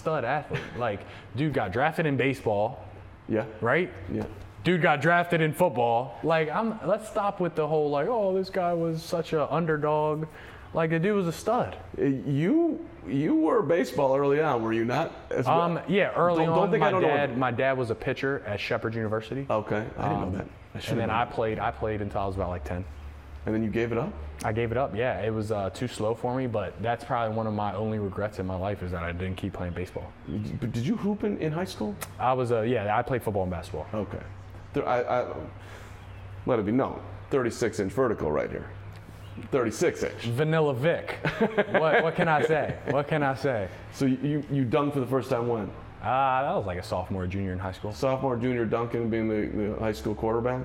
stud athlete. Like, dude got drafted in baseball. Yeah. Right? Yeah. Dude got drafted in football. Like, let's stop with the whole, like, oh, this guy was such an underdog. Like, the dude was a stud. You were baseball early on, were you not? As well? Yeah, early don't think I don't know. my dad was a pitcher at Shepherd University. Okay, I didn't know that. And then I played until I was about like 10. And then you gave it up? I gave it up, yeah. It was too slow for me, but that's probably one of my only regrets in my life is that I didn't keep playing baseball. But did you hoop in high school? I was, I played football and basketball. Okay. I let it be known, 36-inch vertical right here. 36-inch. Vanilla Vic. What can I say? What can I say? So you dunked for the first time when? That was like a sophomore, junior in high school. Sophomore, junior, dunking, being the high school quarterback.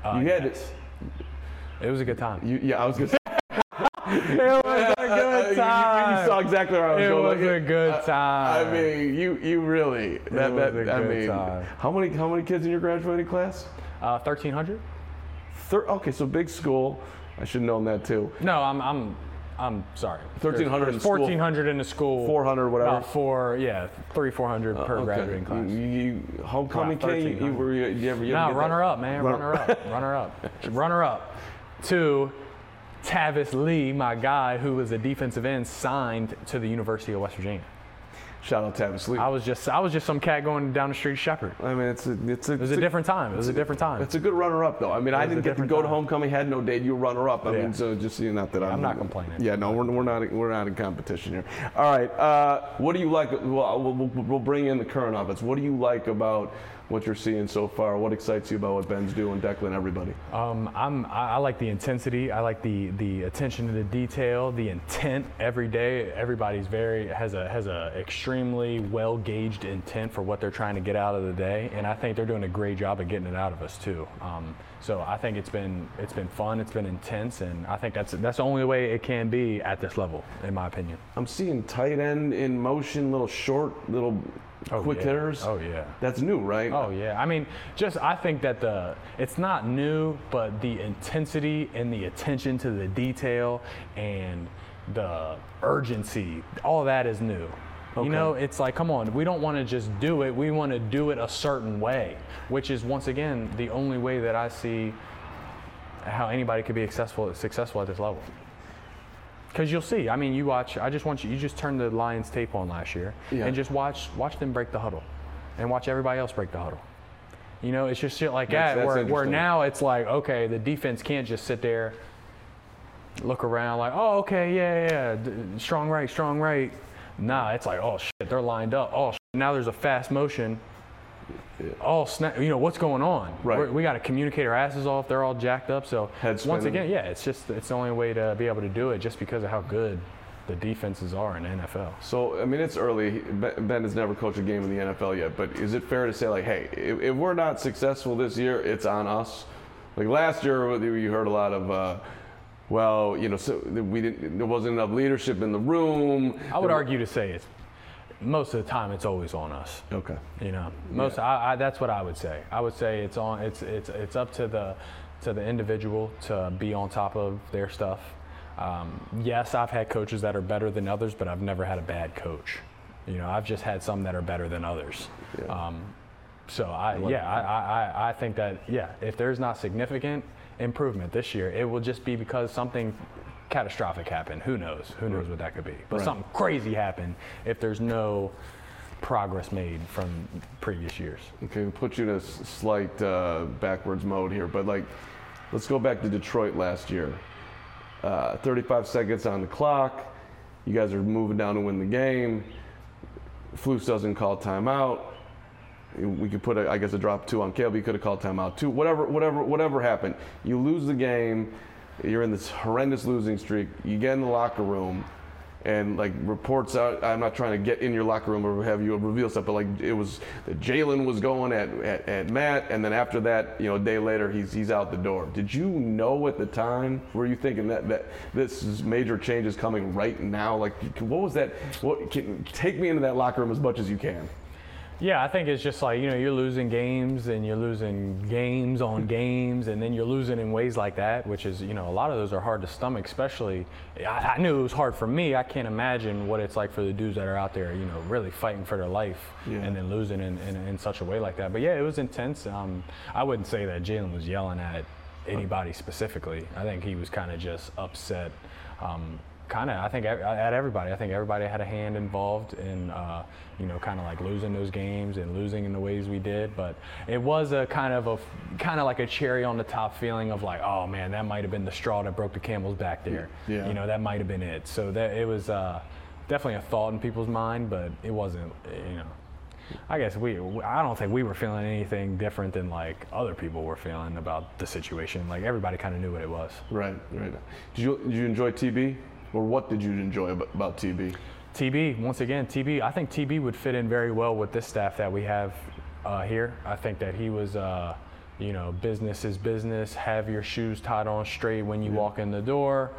It was a good time. I was gonna say. It was a good time. You saw exactly where I was going. It was a good time. I mean, you really. It was a good time. How many kids in your graduating class? 1,300. Okay, so big school. I should have known that too. No, I'm sorry. 1,300 in school. 1,400 in the school. 400, whatever. 400 per graduating class. You homecoming kid? Runner up, man. Runner up. To Tavis Lee, my guy, who was a defensive end, signed to the University of West Virginia. Shout out Tavis Lee. I was just some cat going down the street Shepherd. I mean, it was a different time. It was a different time. It's a good runner-up, though. I mean, I didn't get to go to homecoming, had no date. You were runner-up. I mean, so just not that I'm not complaining. Yeah, no, we're not in competition here. All right, what do you like? We'll bring in the current offense. What do you like about what you're seeing so far? What excites you about what Ben's doing, Declan, everybody? I like the intensity. I like the attention to the detail, the intent every day. Everybody's has a extremely well gauged intent for what they're trying to get out of the day, and I think they're doing a great job of getting it out of us too. So I think it's been fun, it's been intense, and I think that's the only way it can be at this level, in my opinion. I'm seeing tight end in motion, little quick hitters. Oh yeah. That's new, right? Oh yeah. I mean, I think that it's not new, but the intensity and the attention to the detail and the urgency, all of that is new. Okay. You know, it's like, come on, we don't want to just do it. We want to do it a certain way, which is, once again, the only way that I see how anybody could be successful at this level. Because you'll see. I mean, you just turn the Lions tape on last year and just watch them break the huddle and watch everybody else break the huddle. You know, it's just shit like that where now it's like, okay, the defense can't just sit there, look around like, oh, okay, yeah, strong right. Nah, it's like, oh, shit, they're lined up. Oh, shit, now there's a fast motion. Yeah. Oh, snap, what's going on? Right. We got to communicate our asses off. They're all jacked up. So once again, it's the only way to be able to do it just because of how good the defenses are in the NFL. So, I mean, it's early. Ben has never coached a game in the NFL yet, but is it fair to say, like, hey, if we're not successful this year, it's on us? Like last year, you heard a lot of, so there wasn't enough leadership in the room. I would argue to say it's most of the time it's always on us. Okay. That's what I would say. I would say it's up to the individual to be on top of their stuff. Yes, I've had coaches that are better than others, but I've never had a bad coach. I've just had some that are better than others. Yeah. I think that if there's not significant improvement this year, it will just be because something catastrophic happened. Who knows what that could be, but something crazy happened if there's no progress made from previous years. Okay, we'll put you in a slight backwards mode here, but let's go back to Detroit last year. 35 seconds on the clock, you guys are moving down to win the game. Flus doesn't call timeout. We could put a drop 2 on Caleb. You could have called timeout 2. Whatever happened, you lose the game. You're in this horrendous losing streak. You get in the locker room, and reports out. I'm not trying to get in your locker room or have you reveal stuff, but it was that Jalen was going at Matt, and then after that, a day later, he's out the door. Did you know at the time? Were you thinking that this is major changes coming right now? What was that? Take me into that locker room as much as you can. Yeah, I think it's just like, you're losing games and you're losing games on games, and then you're losing in ways like that, which is, a lot of those are hard to stomach, especially, I knew it was hard for me. I can't imagine what it's like for the dudes that are out there, really fighting for their life and then losing in such a way like that. But yeah, it was intense. I wouldn't say that Jalen was yelling at anybody specifically. I think he was kind of just upset. I think at everybody. I think everybody had a hand involved in, kind of like losing those games and losing in the ways we did. But it was a kind of like a cherry on the top feeling of like, oh man, that might have been the straw that broke the camel's back there. Yeah. That might have been it. So that it was definitely a thought in people's mind, but it wasn't. I guess I don't think we were feeling anything different than like other people were feeling about the situation. Like everybody kind of knew what it was. Right. Did you enjoy TB? Or what did you enjoy about TB? TB, once again, I think TB would fit in very well with this staff that we have here. I think that he was, business is business, have your shoes tied on straight when you walk in the door.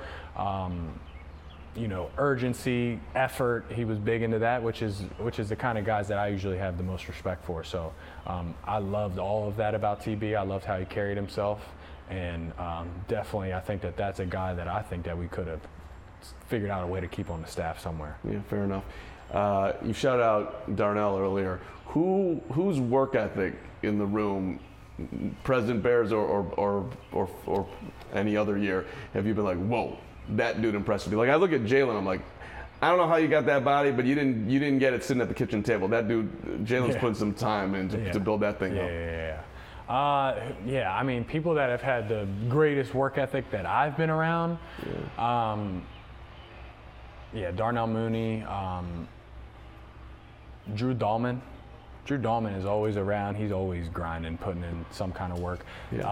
Urgency, effort, he was big into that, which is the kind of guys that I usually have the most respect for. So I loved all of that about TB. I loved how he carried himself. And definitely I think that that's a guy that I think that we could have figured out a way to keep on the staff somewhere. Yeah, fair enough. You shouted out Darnell earlier. Whose work ethic in the room, President Bears or any other year, have you been like, whoa, that dude impressed me? Like I look at Jalen, I'm like, I don't know how you got that body, but you didn't get it sitting at the kitchen table. That dude, Jalen's putting some time in to build that thing up. Yeah. I mean, people that have had the greatest work ethic that I've been around. Darnell Mooney, Drew Dahlman. Drew Dahlman is always around. He's always grinding, putting in some kind of work.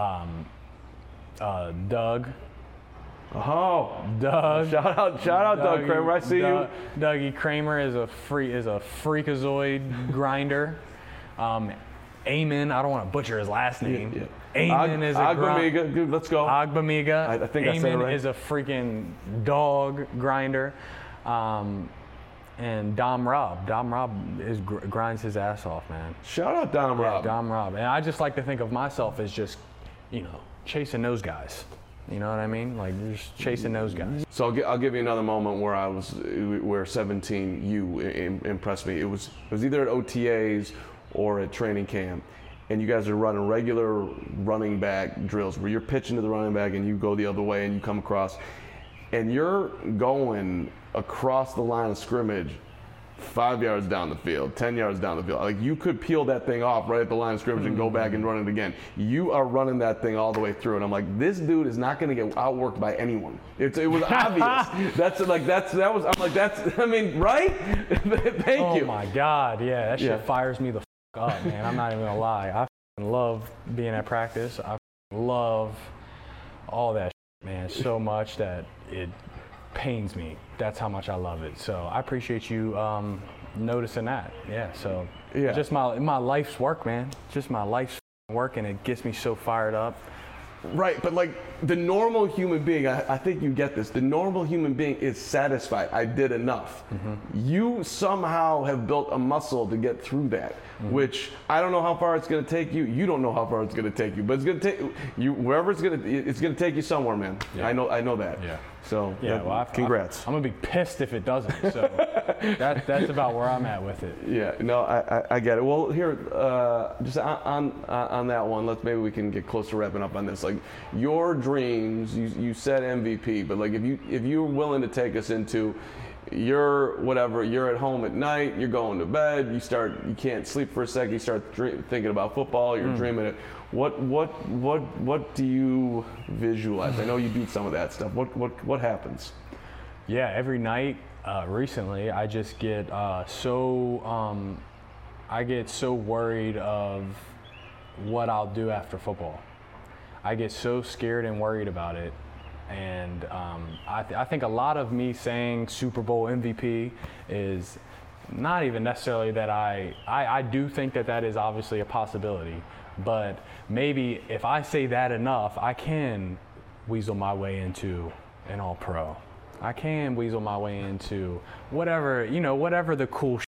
Doug. Oh, Doug! Shout out, Doug Kramer. I see you. Dougie Kramer is a freakazoid grinder. Eamon, I don't want to butcher his last name. Eamon is a Agbamiga. Dude, let's go. Agbamiga. I think I said it right. Eamon is a freaking dog grinder. And Dom Robb. Dom Robb grinds his ass off, man. Shout out Dom Robb. Dom Robb. And I just like to think of myself as just, chasing those guys. You know what I mean? Like just chasing those guys. So I'll give you another moment where 17 you impressed me. It was either at OTAs or at training camp, and you guys are running regular running back drills where you're pitching to the running back and you go the other way and you come across, and you're going across the line of scrimmage 5 yards down the field, 10 yards down the field. Like you could peel that thing off right at the line of scrimmage and go back and run it again. You are running that thing all the way through, and I'm like, this dude is not going to get outworked by anyone. It was obvious. Right? Thank you. Oh my God, yeah, that shit fires me the up, man. I'm not even gonna lie. I love being at practice. I love all that shit, man, so much that it pains me. That's how much I love it. So I appreciate you noticing that. Just my life's work, man. Just my life's work, and it gets me so fired up. Right, but like the normal human being, I think you get this. The normal human being is satisfied. I did enough. You somehow have built a muscle to get through that, which I don't know how far it's going to take you. You don't know how far it's going to take you, but it's going to take you wherever it's going to take you somewhere, man. Yeah. I know that. Yeah. So congrats. I'm gonna be pissed if it doesn't. So that's about where I'm at with it. Yeah. No, I get it. Well, here, just on that one, maybe we can get close to wrapping up on this. Like your dreams, you said MVP, but like if you're willing to take us into you're at home at night, you're going to bed, you can't sleep for a second, you start thinking about football, you're dreaming it. What do you visualize? I know you beat some of that stuff. What happens? Yeah, every night recently, I just get so worried of what I'll do after football. I get so scared and worried about it. And I think a lot of me saying Super Bowl MVP is not even necessarily that I do think that is obviously a possibility, but maybe if I say that enough, I can weasel my way into an All-Pro. I can weasel my way into whatever the cool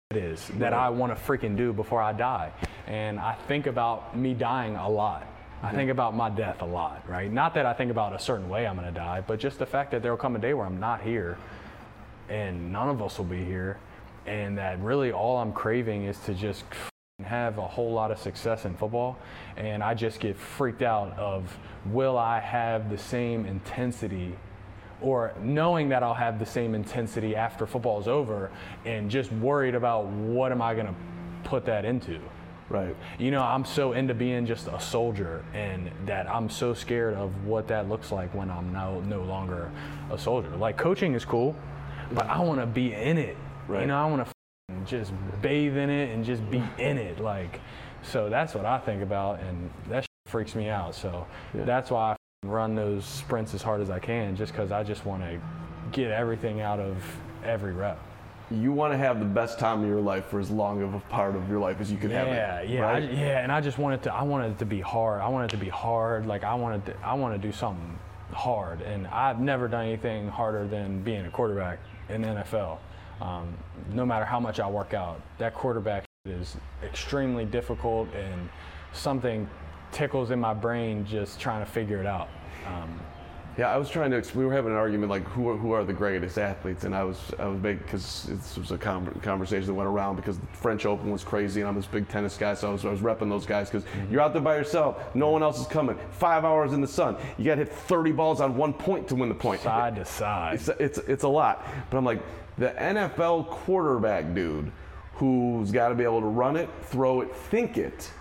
is that I want to freaking do before I die. And I think about me dying a lot. I think about my death a lot, right? Not that I think about a certain way I'm going to die, but just the fact that there will come a day where I'm not here and none of us will be here, and that really all I'm craving is to just have a whole lot of success in football. And I just get freaked out of, will I have the same intensity, or knowing that I'll have the same intensity after football is over, and just worried about what am I going to put that into. Right. You know, I'm so into being just a soldier, and that I'm so scared of what that looks like when I'm no longer a soldier. Like, coaching is cool, but I want to be in it. Right. You know, I want to just bathe in it and just be in it. Like, so that's what I think about, and that freaks me out. So that's why I run those sprints as hard as I can, just because I just want to get everything out of every rep. You want to have the best time of your life for as long of a part of your life as you could have it. Yeah, right? And I just wanted to. I wanted it to be hard. I wanted it to be hard. Like, I want to do something hard, and I've never done anything harder than being a quarterback in the NFL. No matter how much I work out, that quarterback is extremely difficult, and something tickles in my brain just trying to figure it out. Yeah, I was trying to. We were having an argument like who are the greatest athletes, and I was making, because this was a conversation that went around because the French Open was crazy, and I'm this big tennis guy, so I was repping those guys because you're out there by yourself, no one else is coming, 5 hours in the sun, you got to hit 30 balls on 1 point to win the point. Side to side. It's a lot, but I'm like, the NFL quarterback dude who's got to be able to run it, throw it, think it.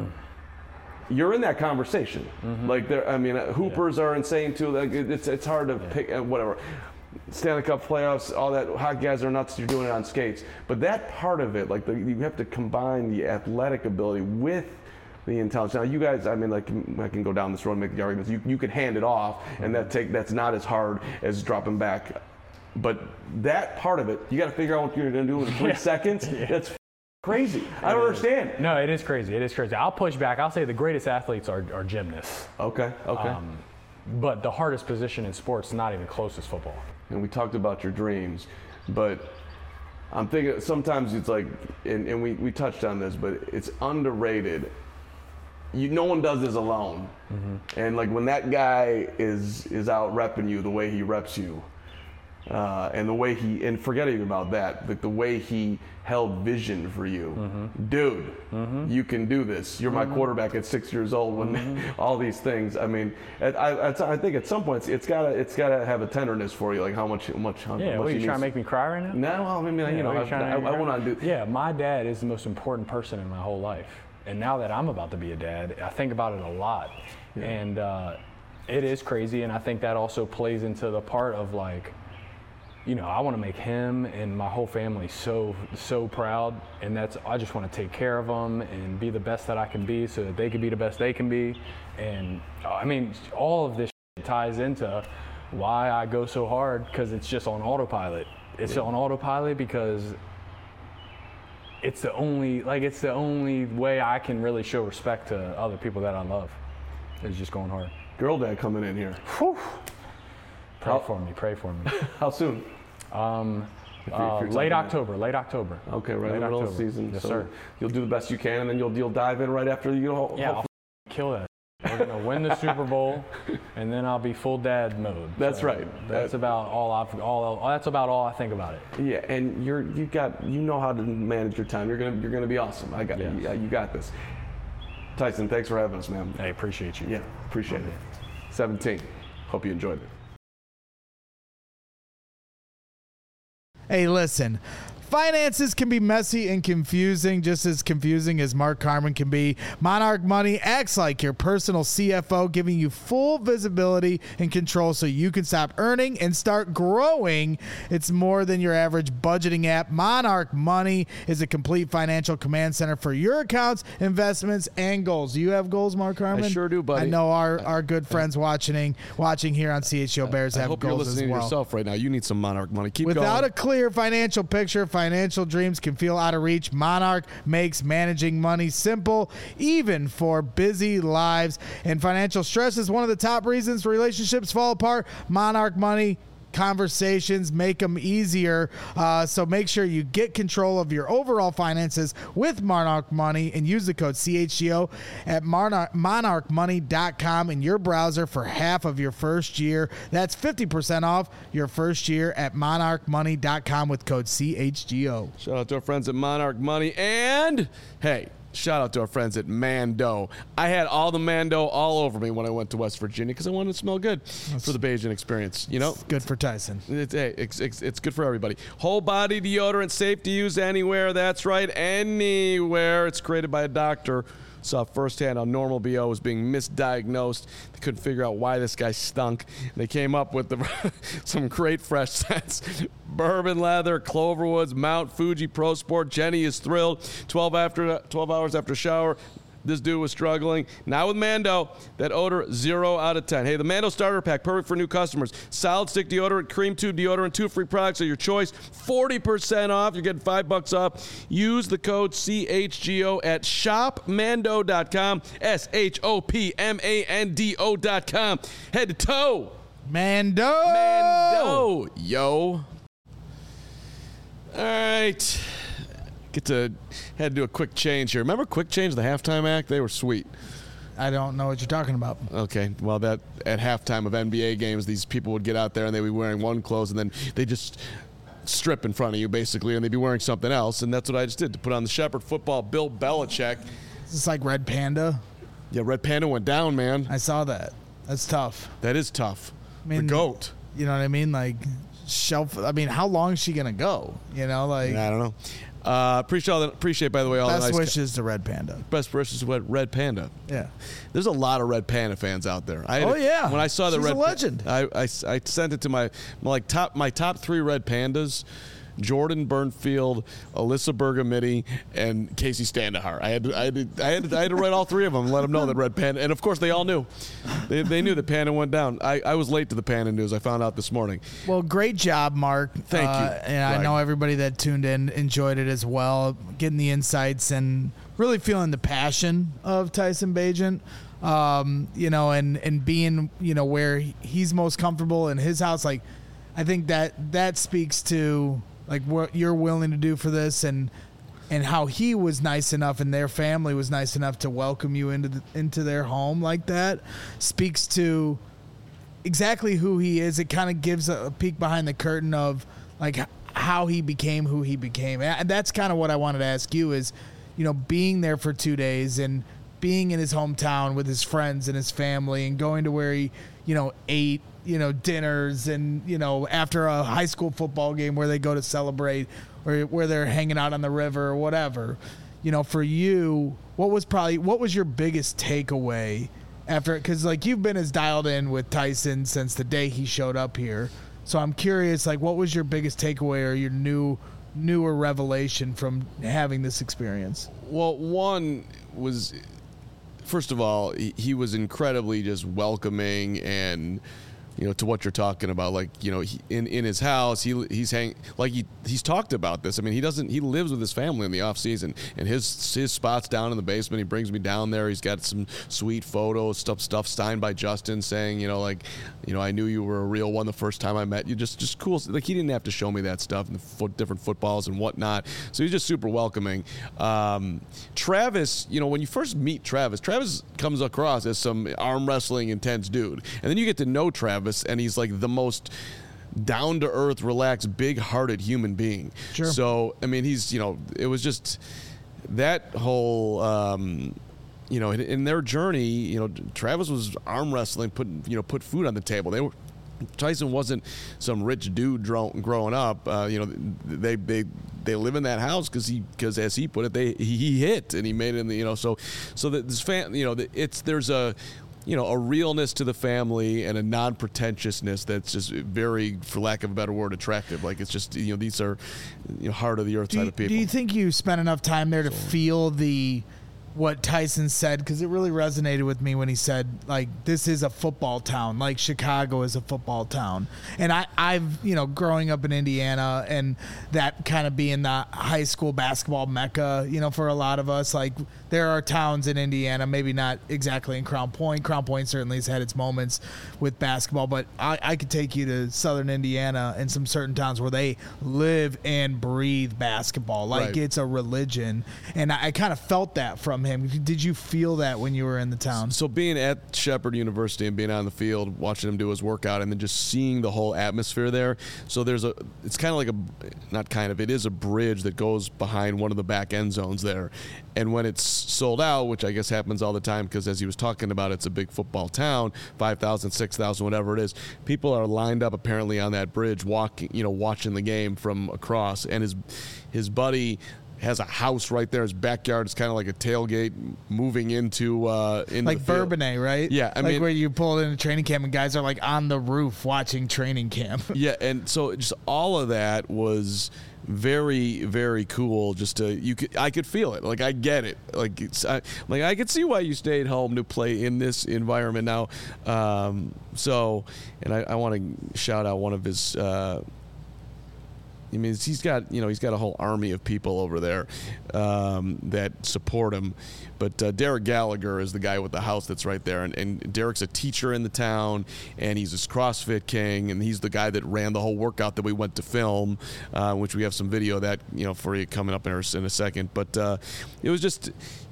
You're in that conversation. Like, hoopers are insane too. Like, it's hard to pick whatever. Stanley Cup playoffs, all that. Hockey guys are nuts. You're doing it on skates, but that part of it, like, you have to combine the athletic ability with the intelligence. Now, you guys, I mean, like, I can go down this road and make the arguments. You could hand it off, and that's not as hard as dropping back. But that part of it, you got to figure out what you're going to do in 3 seconds. That's crazy. I don't understand. No, it is crazy. It is crazy. I'll push back. I'll say the greatest athletes are gymnasts. Okay. But the hardest position in sports is not even close as football. And we talked about your dreams, but I'm thinking sometimes it's like, and we touched on this, but it's underrated. No one does this alone. And like, when that guy is out repping you the way he reps you, and the way and forget even about that, like the way he held vision for you. Dude, you can do this. You're my quarterback at 6 years old, when all these things. I mean, I think at some point it's gotta have a tenderness for you, like how much. Yeah, what, are you trying to make me cry right now? No, I mean, I want to do. Yeah, my dad is the most important person in my whole life. And now that I'm about to be a dad, I think about it a lot. And it is crazy, and I think that also plays into the part of, like, you know, I want to make him and my whole family so proud, and I just want to take care of them and be the best that I can be so that they can be the best they can be. And I mean, all of this ties into why I go so hard, because it's just on autopilot. It's on autopilot because it's the only way I can really show respect to other people that I love, is just going hard. Girl dad coming in here. Whew. Pray for me. How soon? Late October. Okay, right in the middle of the season. Yes, so sir. You'll do the best you can, and then you'll dive in right after you go. Yeah, I'll kill that. We're gonna win the Super Bowl, and then I'll be full dad mode. That's right. That's about all I think about it. Yeah, and you know how to manage your time. You're gonna be awesome. You got this. Tyson, thanks for having us, man. I appreciate you. Yeah, appreciate it. 17. Hope you enjoyed it. Hey, listen. Finances can be messy and confusing, just as confusing as Mark Carman can be. Monarch Money acts like your personal CFO, giving you full visibility and control so you can stop earning and start growing. It's more than your average budgeting app. Monarch Money is a complete financial command center for your accounts, investments, and goals. Do you have goals, Mark Carman? I sure do, buddy. I know our good friends watching here on CHO Bears have goals as well. I hope you're listening to yourself right now. You need some Monarch Money. Keep going. Without a clear financial picture, financial dreams can feel out of reach. Monarch makes managing money simple, even for busy lives. And financial stress is one of the top reasons relationships fall apart. Monarch Money conversations, make them easier. So make sure you get control of your overall finances with Monarch Money and use the code CHGO at monarchmoney.com in your browser for half of your first year. That's 50% off your first year at monarchmoney.com with code CHGO. Shout out to our friends at Monarch Money. And, hey, shout out to our friends at Mando. I had all the Mando all over me when I went to West Virginia because I wanted to smell good for the Bajan experience. You know, It's good for Tyson. It's good for everybody. Whole body deodorant, safe to use anywhere. That's right, anywhere. It's created by a doctor. Saw firsthand how normal BO was being misdiagnosed. They couldn't figure out why this guy stunk. They came up with some great fresh scents. Bourbon Leather, Cloverwoods, Mount Fuji Pro Sport. Jenny is thrilled. 12 hours after shower, this dude was struggling. Now with Mando, that odor 0 out of 10. Hey, the Mando Starter Pack, perfect for new customers. Solid stick deodorant, cream tube deodorant, 2 free products of your choice. 40% off. You're getting $5 off. Use the code CHGO at shopmando.com. SHOPMANDO.com. Head to toe. Mando. Yo. All right. Had to do a quick change here. Remember Quick Change, the halftime act? They were sweet. I don't know what you're talking about. Okay, well, that at halftime of NBA games, these people would get out there and they'd be wearing one clothes and then they just strip in front of you, basically, and they'd be wearing something else. And that's what I just did to put on the Shepherd football Bill Belichick. Is this like Red Panda? Yeah, Red Panda went down, man. I saw that. That's tough. That is tough. I mean, the GOAT. You know what I mean? Like, how long is she going to go? You know, like. I don't know. Appreciate, by the way, all the nice wishes to Red Panda. Best wishes to Red Panda. Yeah. There's a lot of Red Panda fans out there. Yeah. When I saw the She's Red a legend. I sent it to my top 3 Red Pandas. Jordan Burnfield, Alyssa Bergamini, and Casey Standahar. I had to write all 3 of them and let them know that Red Panda, and of course they all knew. They knew that Panda went down. I was late to the Panda news. I found out this morning. Well, great job, Mark. Thank you. And I know everybody that tuned in enjoyed it as well, getting the insights and really feeling the passion of Tyson Bagent. You know, and being, you know, where he's most comfortable in his house. Like, I think that speaks to like what you're willing to do for this, and how he was nice enough and their family was nice enough to welcome you into their home like that, speaks to exactly who he is. It kind of gives a peek behind the curtain of like how he became who he became. And that's kind of what I wanted to ask you is, you know, being there for 2 days and being in his hometown with his friends and his family and going to where he, you know, ate, you know, dinners and, you know, after a high school football game where they go to celebrate or where they're hanging out on the river or whatever. You know, for you, what was your biggest takeaway after, because like you've been as dialed in with Tyson since the day he showed up here. So I'm curious, like, what was your biggest takeaway or your newer revelation from having this experience? Well, one was, first of all, he was incredibly just welcoming and, you know, to what you're talking about, like, you know, in his house, he's talked about this. I mean, he lives with his family in the off season, and his spot's down in the basement. He brings me down there. He's got some sweet photos, stuff signed by Justin, saying, you know, like, you know, I knew you were a real one the first time I met you. Just cool. Like, he didn't have to show me that stuff and the different footballs and whatnot. So he's just super welcoming. Travis, you know, when you first meet Travis comes across as some arm wrestling intense dude, and then you get to know Travis. And he's like the most down-to-earth, relaxed, big-hearted human being. Sure. So, I mean, he's, you know, it was just that whole, you know, in their journey, you know, Travis was arm wrestling, put food on the table. Tyson wasn't some rich dude growing up. You know, they live in that house because as he put it, he hit and he made it in the, you know, so that this fan, you know, there's a, you know, a realness to the family and a non-pretentiousness that's just very, for lack of a better word, attractive. Like, it's just, you know, these are, you know, heart of the earth type of people. Do you think you spent enough time there to feel what Tyson said? Because it really resonated with me when he said, like, this is a football town, like Chicago is a football town. And I've, you know, growing up in Indiana and that kind of being the high school basketball mecca, you know, for a lot of us, like, there are towns in Indiana, maybe not exactly in Crown Point. Crown Point certainly has had its moments with basketball, but I could take you to southern Indiana and some certain towns where they live and breathe basketball. Like, it's a religion. And I kind of felt that from him. Did you feel that when you were in the town? So being at Shepherd University and being on the field, watching him do his workout, and then just seeing the whole atmosphere there. So it's kind of like it is a bridge that goes behind one of the back end zones there. And when it's sold out, which I guess happens all the time because as he was talking about, it's a big football town, 5,000, 6,000, whatever it is, people are lined up apparently on that bridge watching the game from across. And his buddy has a house right there. His backyard is kind of like a tailgate moving into like Bourbonnais, right? Yeah, I mean, where you pull in a training camp and guys are like on the roof watching training camp. Yeah, and so just all of that was very, very cool. I could feel it. Like, I get it. Like, I could see why you stayed home to play in this environment now. And I want to shout out one of his. He's got a whole army of people over there that support him. But Derek Gallagher is the guy with the house that's right there. And Derek's a teacher in the town, and he's this CrossFit king, and he's the guy that ran the whole workout that we went to film, which we have some video of that, for you coming up in a second. But it was just,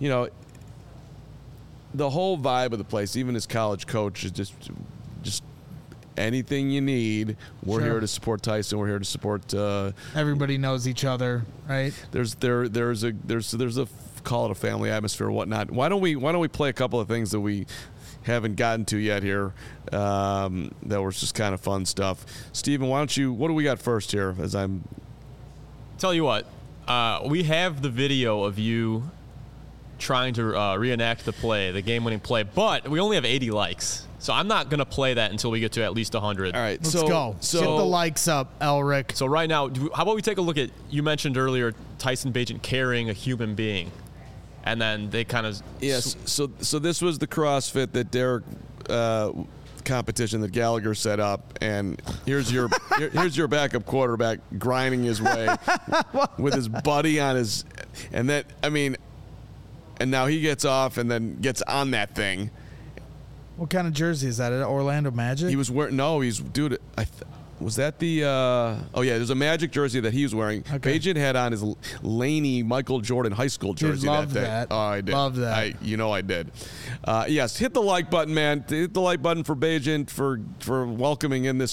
the whole vibe of the place, even his college coach, is just anything you need. We're here to support Tyson. We're here to support. Everybody knows each other, right? There's a call it a family atmosphere or whatnot. Why don't we play a couple of things that we haven't gotten to yet here? That was just kind of fun stuff. Steven, what do we got first here? Tell you what, we have the video of you trying to reenact the game-winning play, but we only have 80 likes. So I'm not going to play that until we get to at least 100. All right, let's go. Get the likes up, Elric. So right now, how about we take a look at, you mentioned earlier, Tyson Bagent carrying a human being. And then they kind of... Yes, so this was the CrossFit that Derek... competition that Gallagher set up, and here's your backup quarterback grinding his way with his buddy on his... And now he gets off and then gets on that thing. What kind of jersey is that? An Orlando Magic? He was wearing... No, was that the... there's a Magic jersey that he was wearing. Okay. Bagent had on his Laney Michael Jordan high school jersey that day. That. Oh, I did. Love that. I did. Yes, hit the like button, man. Hit the like button for Bagent for welcoming in the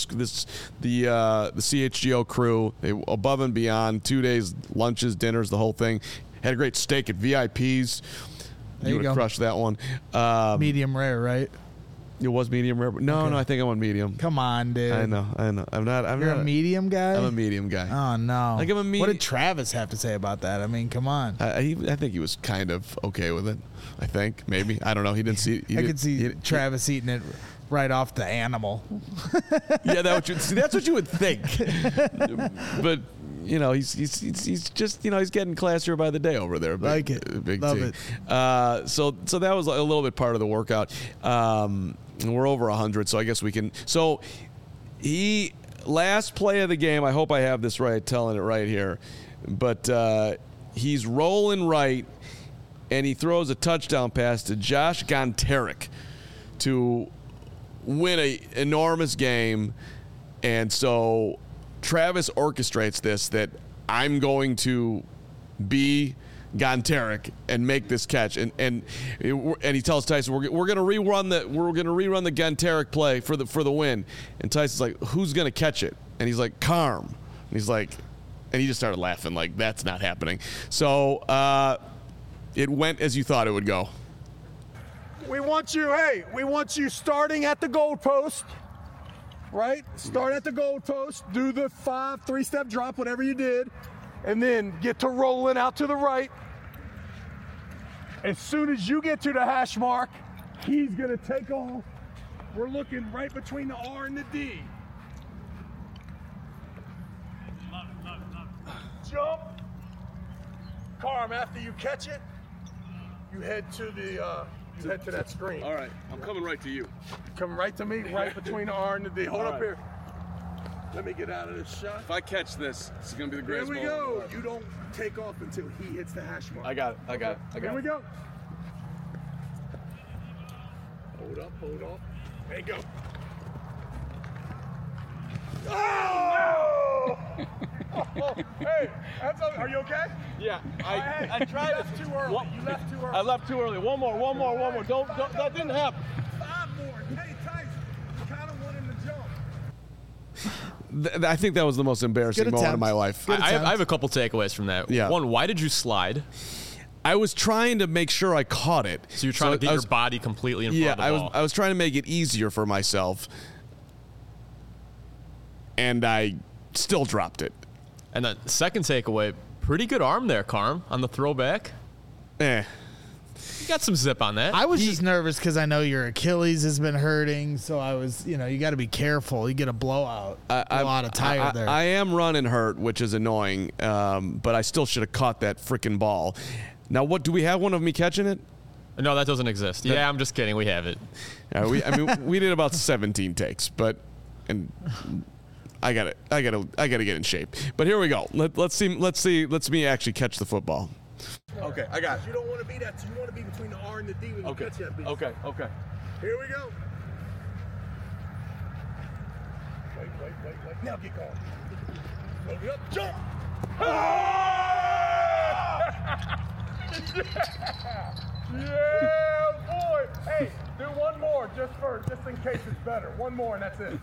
CHGO crew. They above and beyond. 2 days, lunches, dinners, the whole thing. Had a great steak at VIP's. You would have crushed that one. Medium rare, right? It was medium rare. No, I think I went medium. Come on, dude. I know. I'm not. You're a medium guy? I'm a medium guy. Oh, no. Like, I'm a what did Travis have to say about that? I mean, come on. I think he was kind of okay with it. I think. Maybe. I don't know. He didn't see... I could see Travis eating it right off the animal. Yeah, that's what you would think. But... he's just, he's getting classier by the day over there. Like it. Big Love T. it. So that was a little bit part of the workout. And we're over 100, so I guess we can. So last play of the game, I hope I have this right, telling it right here. But he's rolling right, and he throws a touchdown pass to Josh Gontarek to win an enormous game. And so Travis orchestrates this, that I'm going to be Gontarek and make this catch, and he tells Tyson, we're going to rerun the Gontarek play for the win. And Tyson's like, who's going to catch it? And he's like, Carm. And he's like, and he just started laughing like, that's not happening. So it went as you thought it would go. We want you starting at the goal post. Right? Start at the goal post, do the 3-step drop, whatever you did, and then get to rolling out to the right. As soon as you get to the hash mark, he's going to take off. We're looking right between the R and the D. Jump. Carm, after you catch it, you head to that screen. All right, I'm coming right to you. Come right to me, right between the R and the D. Hold up here. Let me get out of this shot. If I catch this is going to be the greatest moment. moment. Here we go. You don't take off until he hits the hash mark. I got it. Here we go. up, pull it off. There you go. Oh! Hey, are you okay? Yeah, I tried. You left too early. You left too early. I left too early. One more. Don't that didn't happen. 5 more. Hey, Tyson, you kind of wanted to jump. I think that was the most embarrassing moment of my life. I have a couple takeaways from that. Yeah. One, why did you slide? I was trying to make sure I caught it. So you're trying to get your body completely in front of the ball. I was trying to make it easier for myself, and I still dropped it. And the second takeaway, pretty good arm there, Carm, on the throwback. You got some zip on that. I was just nervous because I know your Achilles has been hurting, so I was, you got to be careful. You get a blowout, a lot of tire there. I am running hurt, which is annoying, but I still should have caught that freaking ball. Now, what do we have one of me catching it? No, that doesn't exist. Yeah, I'm just kidding. We have it. We did about 17 takes, and I gotta get in shape. But here we go. Let's me actually catch the football. Okay, I got it. You don't want to be that. You want to be between the R and the D when you catch that beat. Okay. Here we go. Wait. Now get going. Load it up. Jump. Yeah, boy. Hey, do one more just in case it's better. One more and that's it.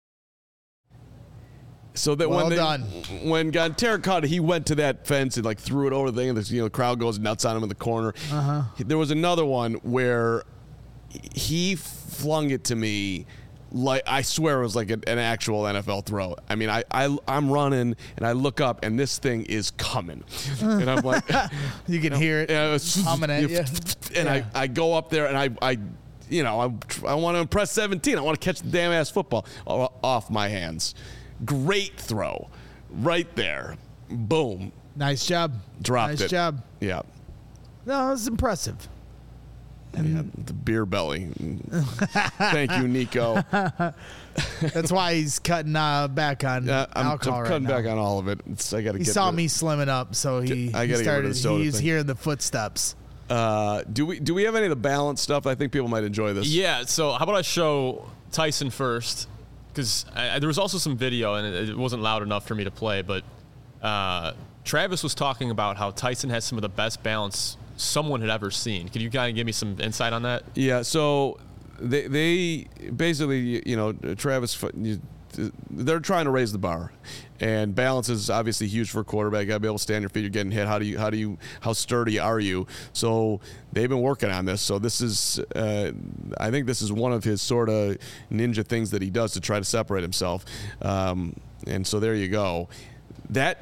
So that Well when done. When Terra caught it, he went to that fence and like threw it over the thing, and the crowd goes nuts on him in the corner. There was another one where he flung it to me, like I swear it was like an actual NFL throw. I mean, I'm running and I look up and this thing is coming, and I'm like, you can hear it humming at you. And I go up there and I want to impress 17. I want to catch the damn ass football off my hands. Great throw, right there. Boom. Nice job. Dropped it. Nice job. Yeah. No, it was impressive. Yeah, the beer belly. Thank you, Nico. That's why he's cutting back on alcohol I'm cutting right back now. on all of it. He saw me slimming up, so he started. He's hearing the footsteps. Do we have any of the balance stuff? I think people might enjoy this. Yeah. So how about I show Tyson first? Because there was also some video, and it wasn't loud enough for me to play, but Travis was talking about how Tyson has some of the best balance someone had ever seen. Could you kind of give me some insight on that? Yeah, so they basically, Travis, they're trying to raise the bar, and balance is obviously huge for a quarterback. You got to be able to stand on your feet. You're getting hit. How sturdy are you? So they've been working on this. So this is, I think this is one of his sort of ninja things that he does to try to separate himself. And so there you go. That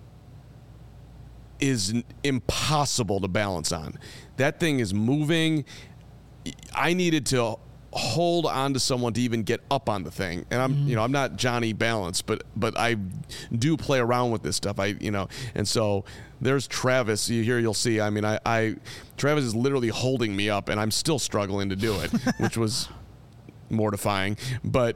is impossible to balance on. That thing is moving. I needed to hold on to someone to even get up on the thing, and I'm not Johnny Balance, but I do play around with this stuff. And so there's Travis. You'll see. I mean, Travis is literally holding me up, and I'm still struggling to do it, which was mortifying. But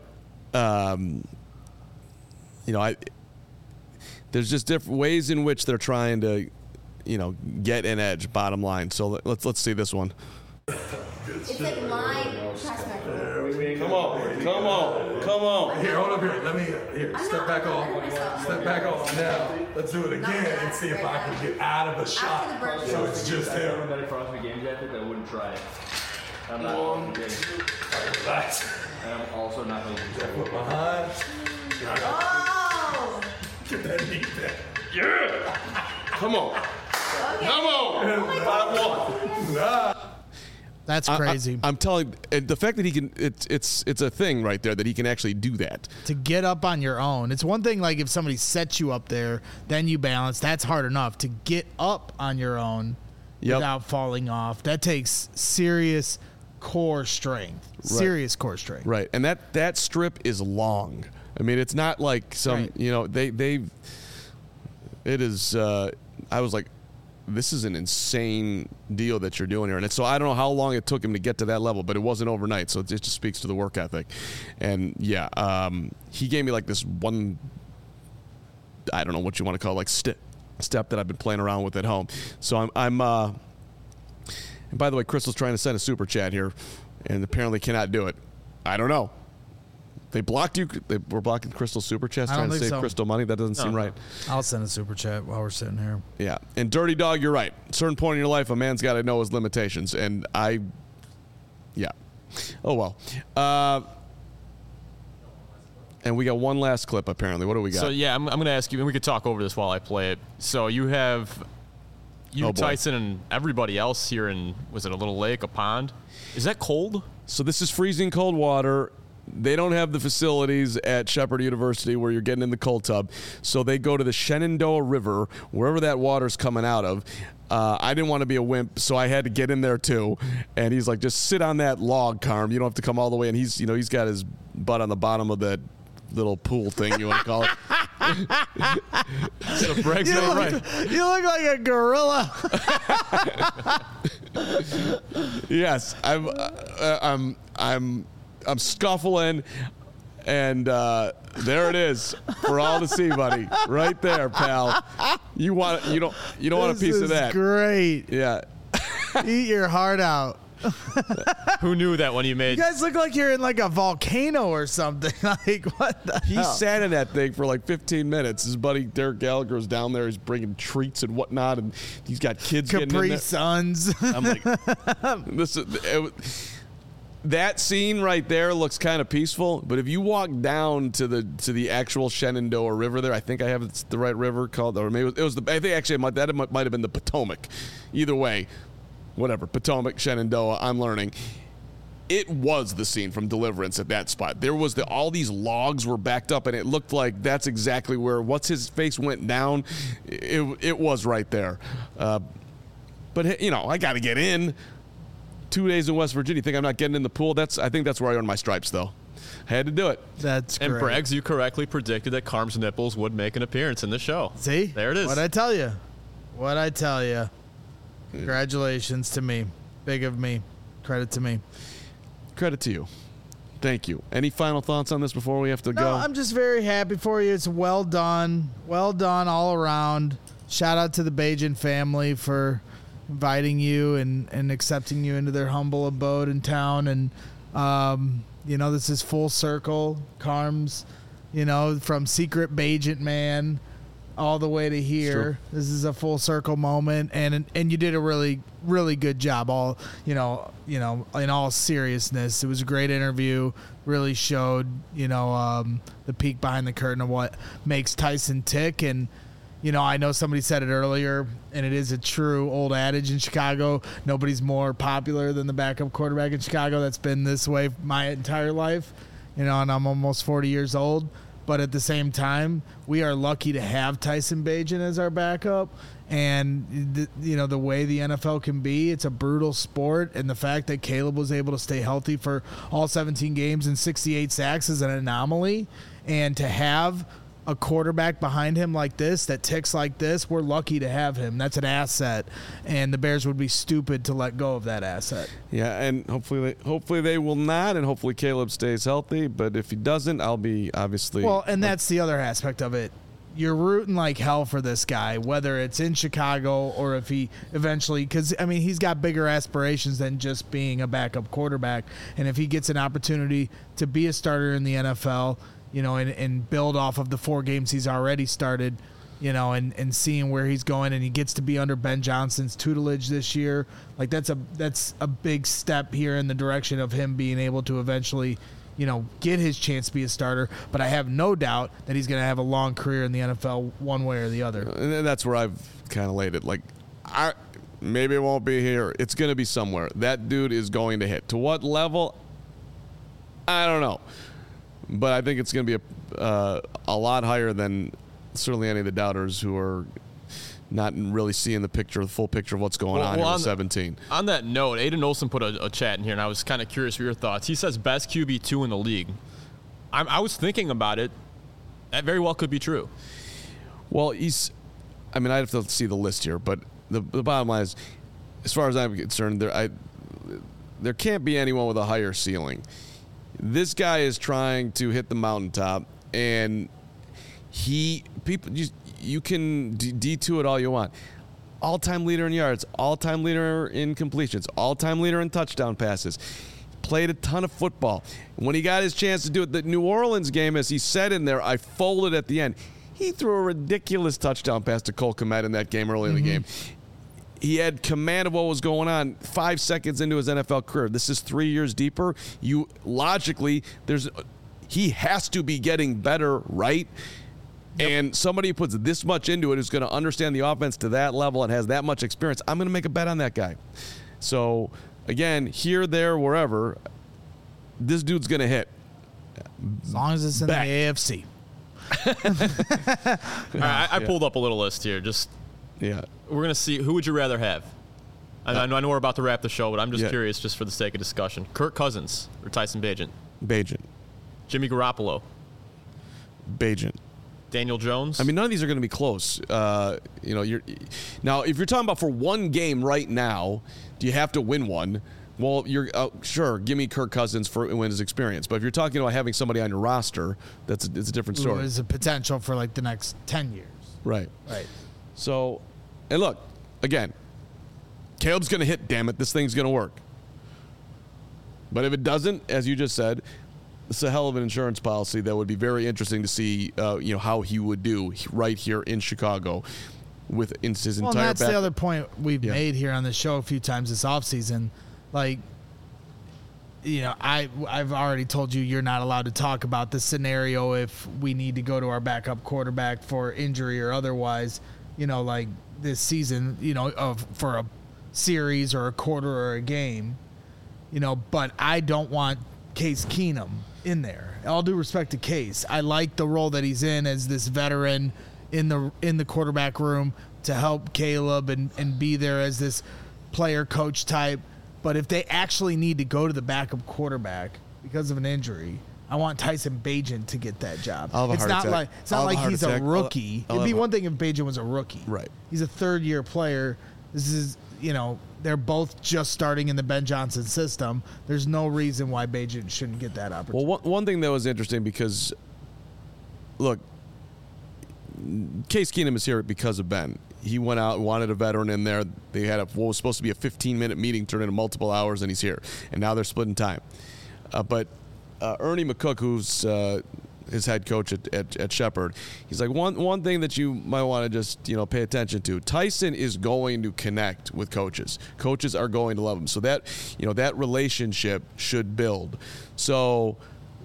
there's just different ways in which they're trying to, get an edge. Bottom line. So let's see this one. It's like my pass back. Come on. Here, hold up here. Step back off. Now, let's do it again and see if I can get out of the shot. So it's just him. Everybody across the game jacket that wouldn't try it. I'm not Relax. And I'm also not going to do Foot behind. Oh! Get that knee back. Yeah. Come on. Okay. Come on. 5-1. That's crazy. I'm telling you, the fact that he can, it's a thing right there that he can actually do that. To get up on your own. It's one thing like if somebody sets you up there, then you balance. That's hard enough. To get up on your own without falling off, that takes serious core strength. Serious core strength. Right. And that strip is long. I mean, it's not like some, it is, I was like, this is an insane deal that you're doing here. And so I don't know how long it took him to get to that level, but it wasn't overnight. So it just speaks to the work ethic. And he gave me like this one, I don't know what you want to call it, like step that I've been playing around with at home. So I'm and by the way, Crystal's trying to send a super chat here. and apparently cannot do it. I don't know. They blocked you. They were blocking Crystal Super Chats trying to save Crystal money. That doesn't seem right. I'll send a Super Chat while we're sitting here. Yeah. And Dirty Dog, you're right. At a certain point in your life, a man's got to know his limitations. And yeah. Oh, well. And we got one last clip, apparently. What do we got? So, yeah, I'm going to ask you, and we could talk over this while I play it. So you have Tyson, and everybody else here in, was it a little lake, a pond? Is that cold? So this is freezing cold water. They don't have the facilities at Shepherd University where you're getting in the cold tub. So they go to the Shenandoah River, wherever that water's coming out of. I didn't want to be a wimp, so I had to get in there too. And he's like, just sit on that log, Carm. You don't have to come all the way. And he's got his butt on the bottom of that little pool thing, you want to call it. So Bregg's right. You look like a gorilla. Yes, I'm scuffling, and there it is for all to see, buddy. Right there, pal. You don't want a piece of that. Great. Yeah. Eat your heart out. Who knew that when you made? You guys look like you're in like a volcano or something. Like what the He hell? sat in that thing for like 15 minutes. His buddy Derek Gallagher is down there. He's bringing treats and whatnot, and he's got kids getting in Capri there. Suns. I'm like, that scene right there looks kind of peaceful, but if you walk down to the actual Shenandoah River there, I think I have the right river called, or maybe it was I think actually it might have been the Potomac. Either way, whatever, Potomac, Shenandoah, I'm learning. It was the scene from Deliverance at that spot. There was all these logs were backed up, and it looked like that's exactly where what's his face went down. It was right there. But I got to get in. 2 days in West Virginia. Think I'm not getting in the pool? I think that's where I earned my stripes, though. I had to do it. That's great. And Braggs, you correctly predicted that Carm's nipples would make an appearance in the show. See? There it is. What'd I tell you? Congratulations to me. Big of me. Credit to me. Credit to you. Thank you. Any final thoughts on this before we have to go? No, I'm just very happy for you. It's well done. Well done all around. Shout out to the Bajan family for inviting you and accepting you into their humble abode in town. And, this is full circle. Carm's, from secret Bajan man all the way to here. This is a full circle moment. And you did a really, really good job. All, in all seriousness, it was a great interview. Really showed, the peek behind the curtain of what makes Tyson tick. And, I know somebody said it earlier, and it is a true old adage in Chicago. Nobody's more popular than the backup quarterback in Chicago. That's been this way my entire life, and I'm almost 40 years old. But at the same time, we are lucky to have Tyson Bagent as our backup. And, the way the NFL can be, it's a brutal sport. And the fact that Caleb was able to stay healthy for all 17 games and 68 sacks is an anomaly. And to have a quarterback behind him like this that ticks like this, we're lucky to have him. That's an asset, and the Bears would be stupid to let go of that asset. Yeah, and hopefully they will not, and hopefully Caleb stays healthy. But if he doesn't, I'll be obviously. Well, and that's the other aspect of it. You're rooting like hell for this guy, whether it's in Chicago or if he eventually, because he's got bigger aspirations than just being a backup quarterback. And if he gets an opportunity to be a starter in the NFL, and build off of the 4 games he's already started, and seeing where he's going, and he gets to be under Ben Johnson's tutelage this year. Like that's a big step here in the direction of him being able to eventually, get his chance to be a starter. But I have no doubt that he's going to have a long career in the NFL one way or the other. And that's where I've kind of laid it. Like, maybe it won't be here. It's going to be somewhere. That dude is going to hit. To what level? I don't know. But I think it's going to be a lot higher than certainly any of the doubters who are not really seeing the full picture of what's going on here with 17. On that note, Aiden Olson put a chat in here, and I was kind of curious for your thoughts. He says best QB2 in the league. I was thinking about it. That very well could be true. Well, I'd have to see the list here, but the bottom line is, as far as I'm concerned, there can't be anyone with a higher ceiling. This guy is trying to hit the mountaintop, and you can D2 it all you want. All-time leader in yards, all-time leader in completions, all-time leader in touchdown passes. played a ton of football. When he got his chance to do it, the New Orleans game, as he said in there, I folded at the end. He threw a ridiculous touchdown pass to Cole Kmet in that game early in the game. He had command of what was going on 5 seconds into his NFL career. This is 3 years deeper. You logically, he has to be getting better, right? Yep. And somebody who puts this much into it is going to understand the offense to that level and has that much experience. I'm going to make a bet on that guy. So, again, here, there, wherever, this dude's going to hit. As long as it's in the AFC. All right, I pulled up a little list here. We're going to see, who would you rather have? I know we're about to wrap the show, but I'm just curious, just for the sake of discussion. Kirk Cousins or Tyson Bagent? Bagent. Jimmy Garoppolo? Bagent. Daniel Jones? I mean, none of these are going to be close. Now, if you're talking about for one game right now, do you have to win one? Well, you're sure. Give me Kirk Cousins for win his experience. But if you're talking about having somebody on your roster, it's a different story. There's a potential for like the next 10 years. Right. So, and look, again, Caleb's going to hit. Damn it, this thing's going to work. But if it doesn't, as you just said, it's a hell of an insurance policy that would be very interesting to see. How he would do right here in Chicago. With his entire. Well, and that's the other point we've made here on the show a few times this offseason. Like, I've already told you you're not allowed to talk about the scenario if we need to go to our backup quarterback for injury or otherwise, like this season, for a series or a quarter or a game, but I don't want Case Keenum in there. All due respect to Case. I like the role that he's in as this veteran in the quarterback room to help Caleb and be there as this player coach type. But if they actually need to go to the backup quarterback because of an injury, I want Tyson Bagent to get that job. It's not like he's a rookie. It'd be one thing if Bagent was a rookie. Right. He's a third-year player. This is, they're both just starting in the Ben Johnson system. There's no reason why Bagent shouldn't get that opportunity. Well, one thing that was interesting because, look, Case Keenum is here because of Ben. He went out and wanted a veteran in there. They had what was supposed to be a 15-minute meeting turned into multiple hours, and he's here. And now they're splitting time. But Ernie McCook, who's his head coach at Shepherd, he's like, one thing that you might want to just pay attention to. Tyson is going to connect with coaches. Coaches are going to love him. So that that relationship should build. So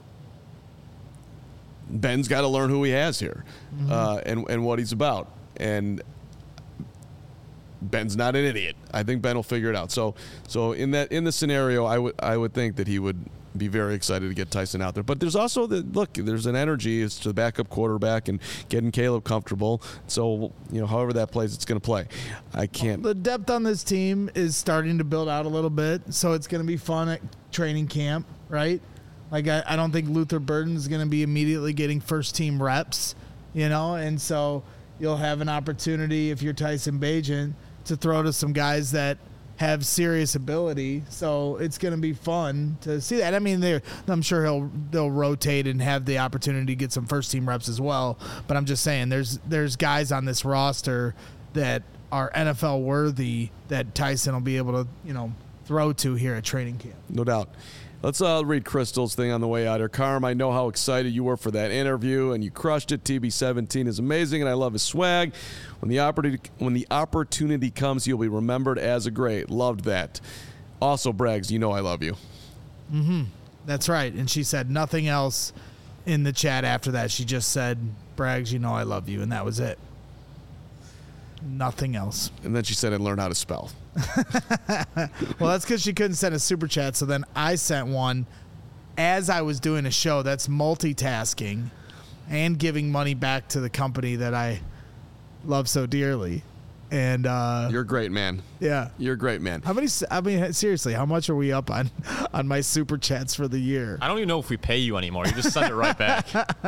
Ben's got to learn who he has here, and what he's about. And Ben's not an idiot. I think Ben will figure it out. So in the scenario, I would think that he would be very excited to get Tyson out there. But there's also there's an energy as to the backup quarterback and getting Caleb comfortable. So however that plays, it's going to play. I can't. The depth on this team is starting to build out a little bit, so it's going to be fun at training camp, right? Like I don't think Luther Burden is going to be immediately getting first team reps, and so you'll have an opportunity if you're Tyson Bagent to throw to some guys that have serious ability. So it's going to be fun to see that. I mean, I'm sure they'll rotate and have the opportunity to get some first team reps as well. But I'm just saying there's guys on this roster that are NFL worthy that Tyson will be able to, throw to here at training camp. No doubt. Let's read Crystal's thing on the way out here. Carm, I know how excited you were for that interview, and you crushed it. TB17 is amazing, and I love his swag. When the opportunity comes, you'll be remembered as a great. Loved that. Also, Braggs, I love you. Mm-hmm. That's right. And she said nothing else in the chat after that. She just said, Braggs, I love you, and that was it. Nothing else. And then she said, and learn how to spell. Well, that's because she couldn't send a super chat, so then I sent one as I was doing a show. That's multitasking and giving money back to the company that I love so dearly. And you're a great man. Yeah, you're a great man. Seriously, how much are we up on my super chats for the year? I don't even know if we pay you anymore. You just send it right back.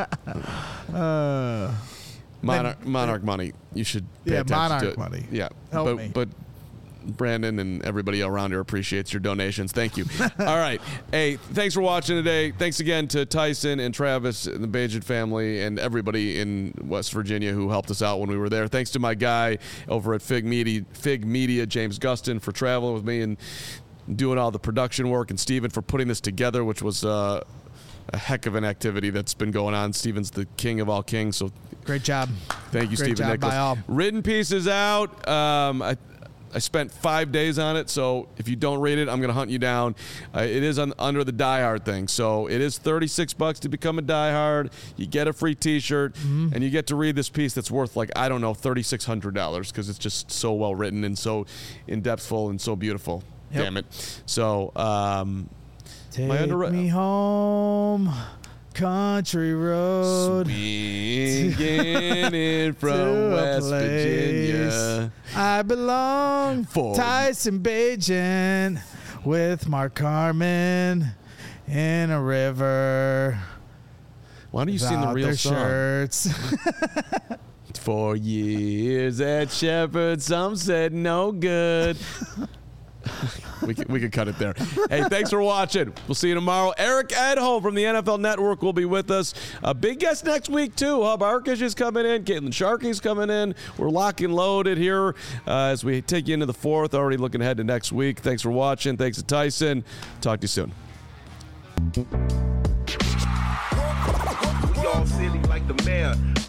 Monarch money. You should pay attention Monarch to it. Money. Yeah, Help me. But Brandon and everybody around here appreciates your donations. Thank you. All right. Hey, thanks for watching today. Thanks again to Tyson and Travis and the Bagent family and everybody in West Virginia who helped us out when we were there. Thanks to my guy over at Fig Media, James Gustin, for traveling with me and doing all the production work, and Steven for putting this together, which was a heck of an activity that's been going on. Steven's the king of all kings, so great job. Thank you, Great Steven job Nicholas. by all. Written piece is out. I spent 5 days on it, so if you don't read it, I'm going to hunt you down. It is under the Die Hard thing, so it is $36 to become a Die Hard. You get a free T-shirt, and you get to read this piece that's worth, like, I don't know, $3,600 because it's just so well written and so in-depthful and so beautiful. Yep. Damn it. So, Take me home, country road. Swinging in from West Virginia. I belong For Tyson Bagent with Mark Carmen in a river. Why don't you sing the without real their song? shirts. 4 years at Shepherd, some said no good. we could cut it there. Hey, thanks for watching. We'll see you tomorrow. Eric Edholm from the NFL Network will be with us. A big guest next week, too. Hub Arkish is coming in. Caitlin Sharkey's coming in. We're locked and loaded here as we take you into the fourth. Already looking ahead to next week. Thanks for watching. Thanks to Tyson. Talk to you soon. We all silly like the mayor.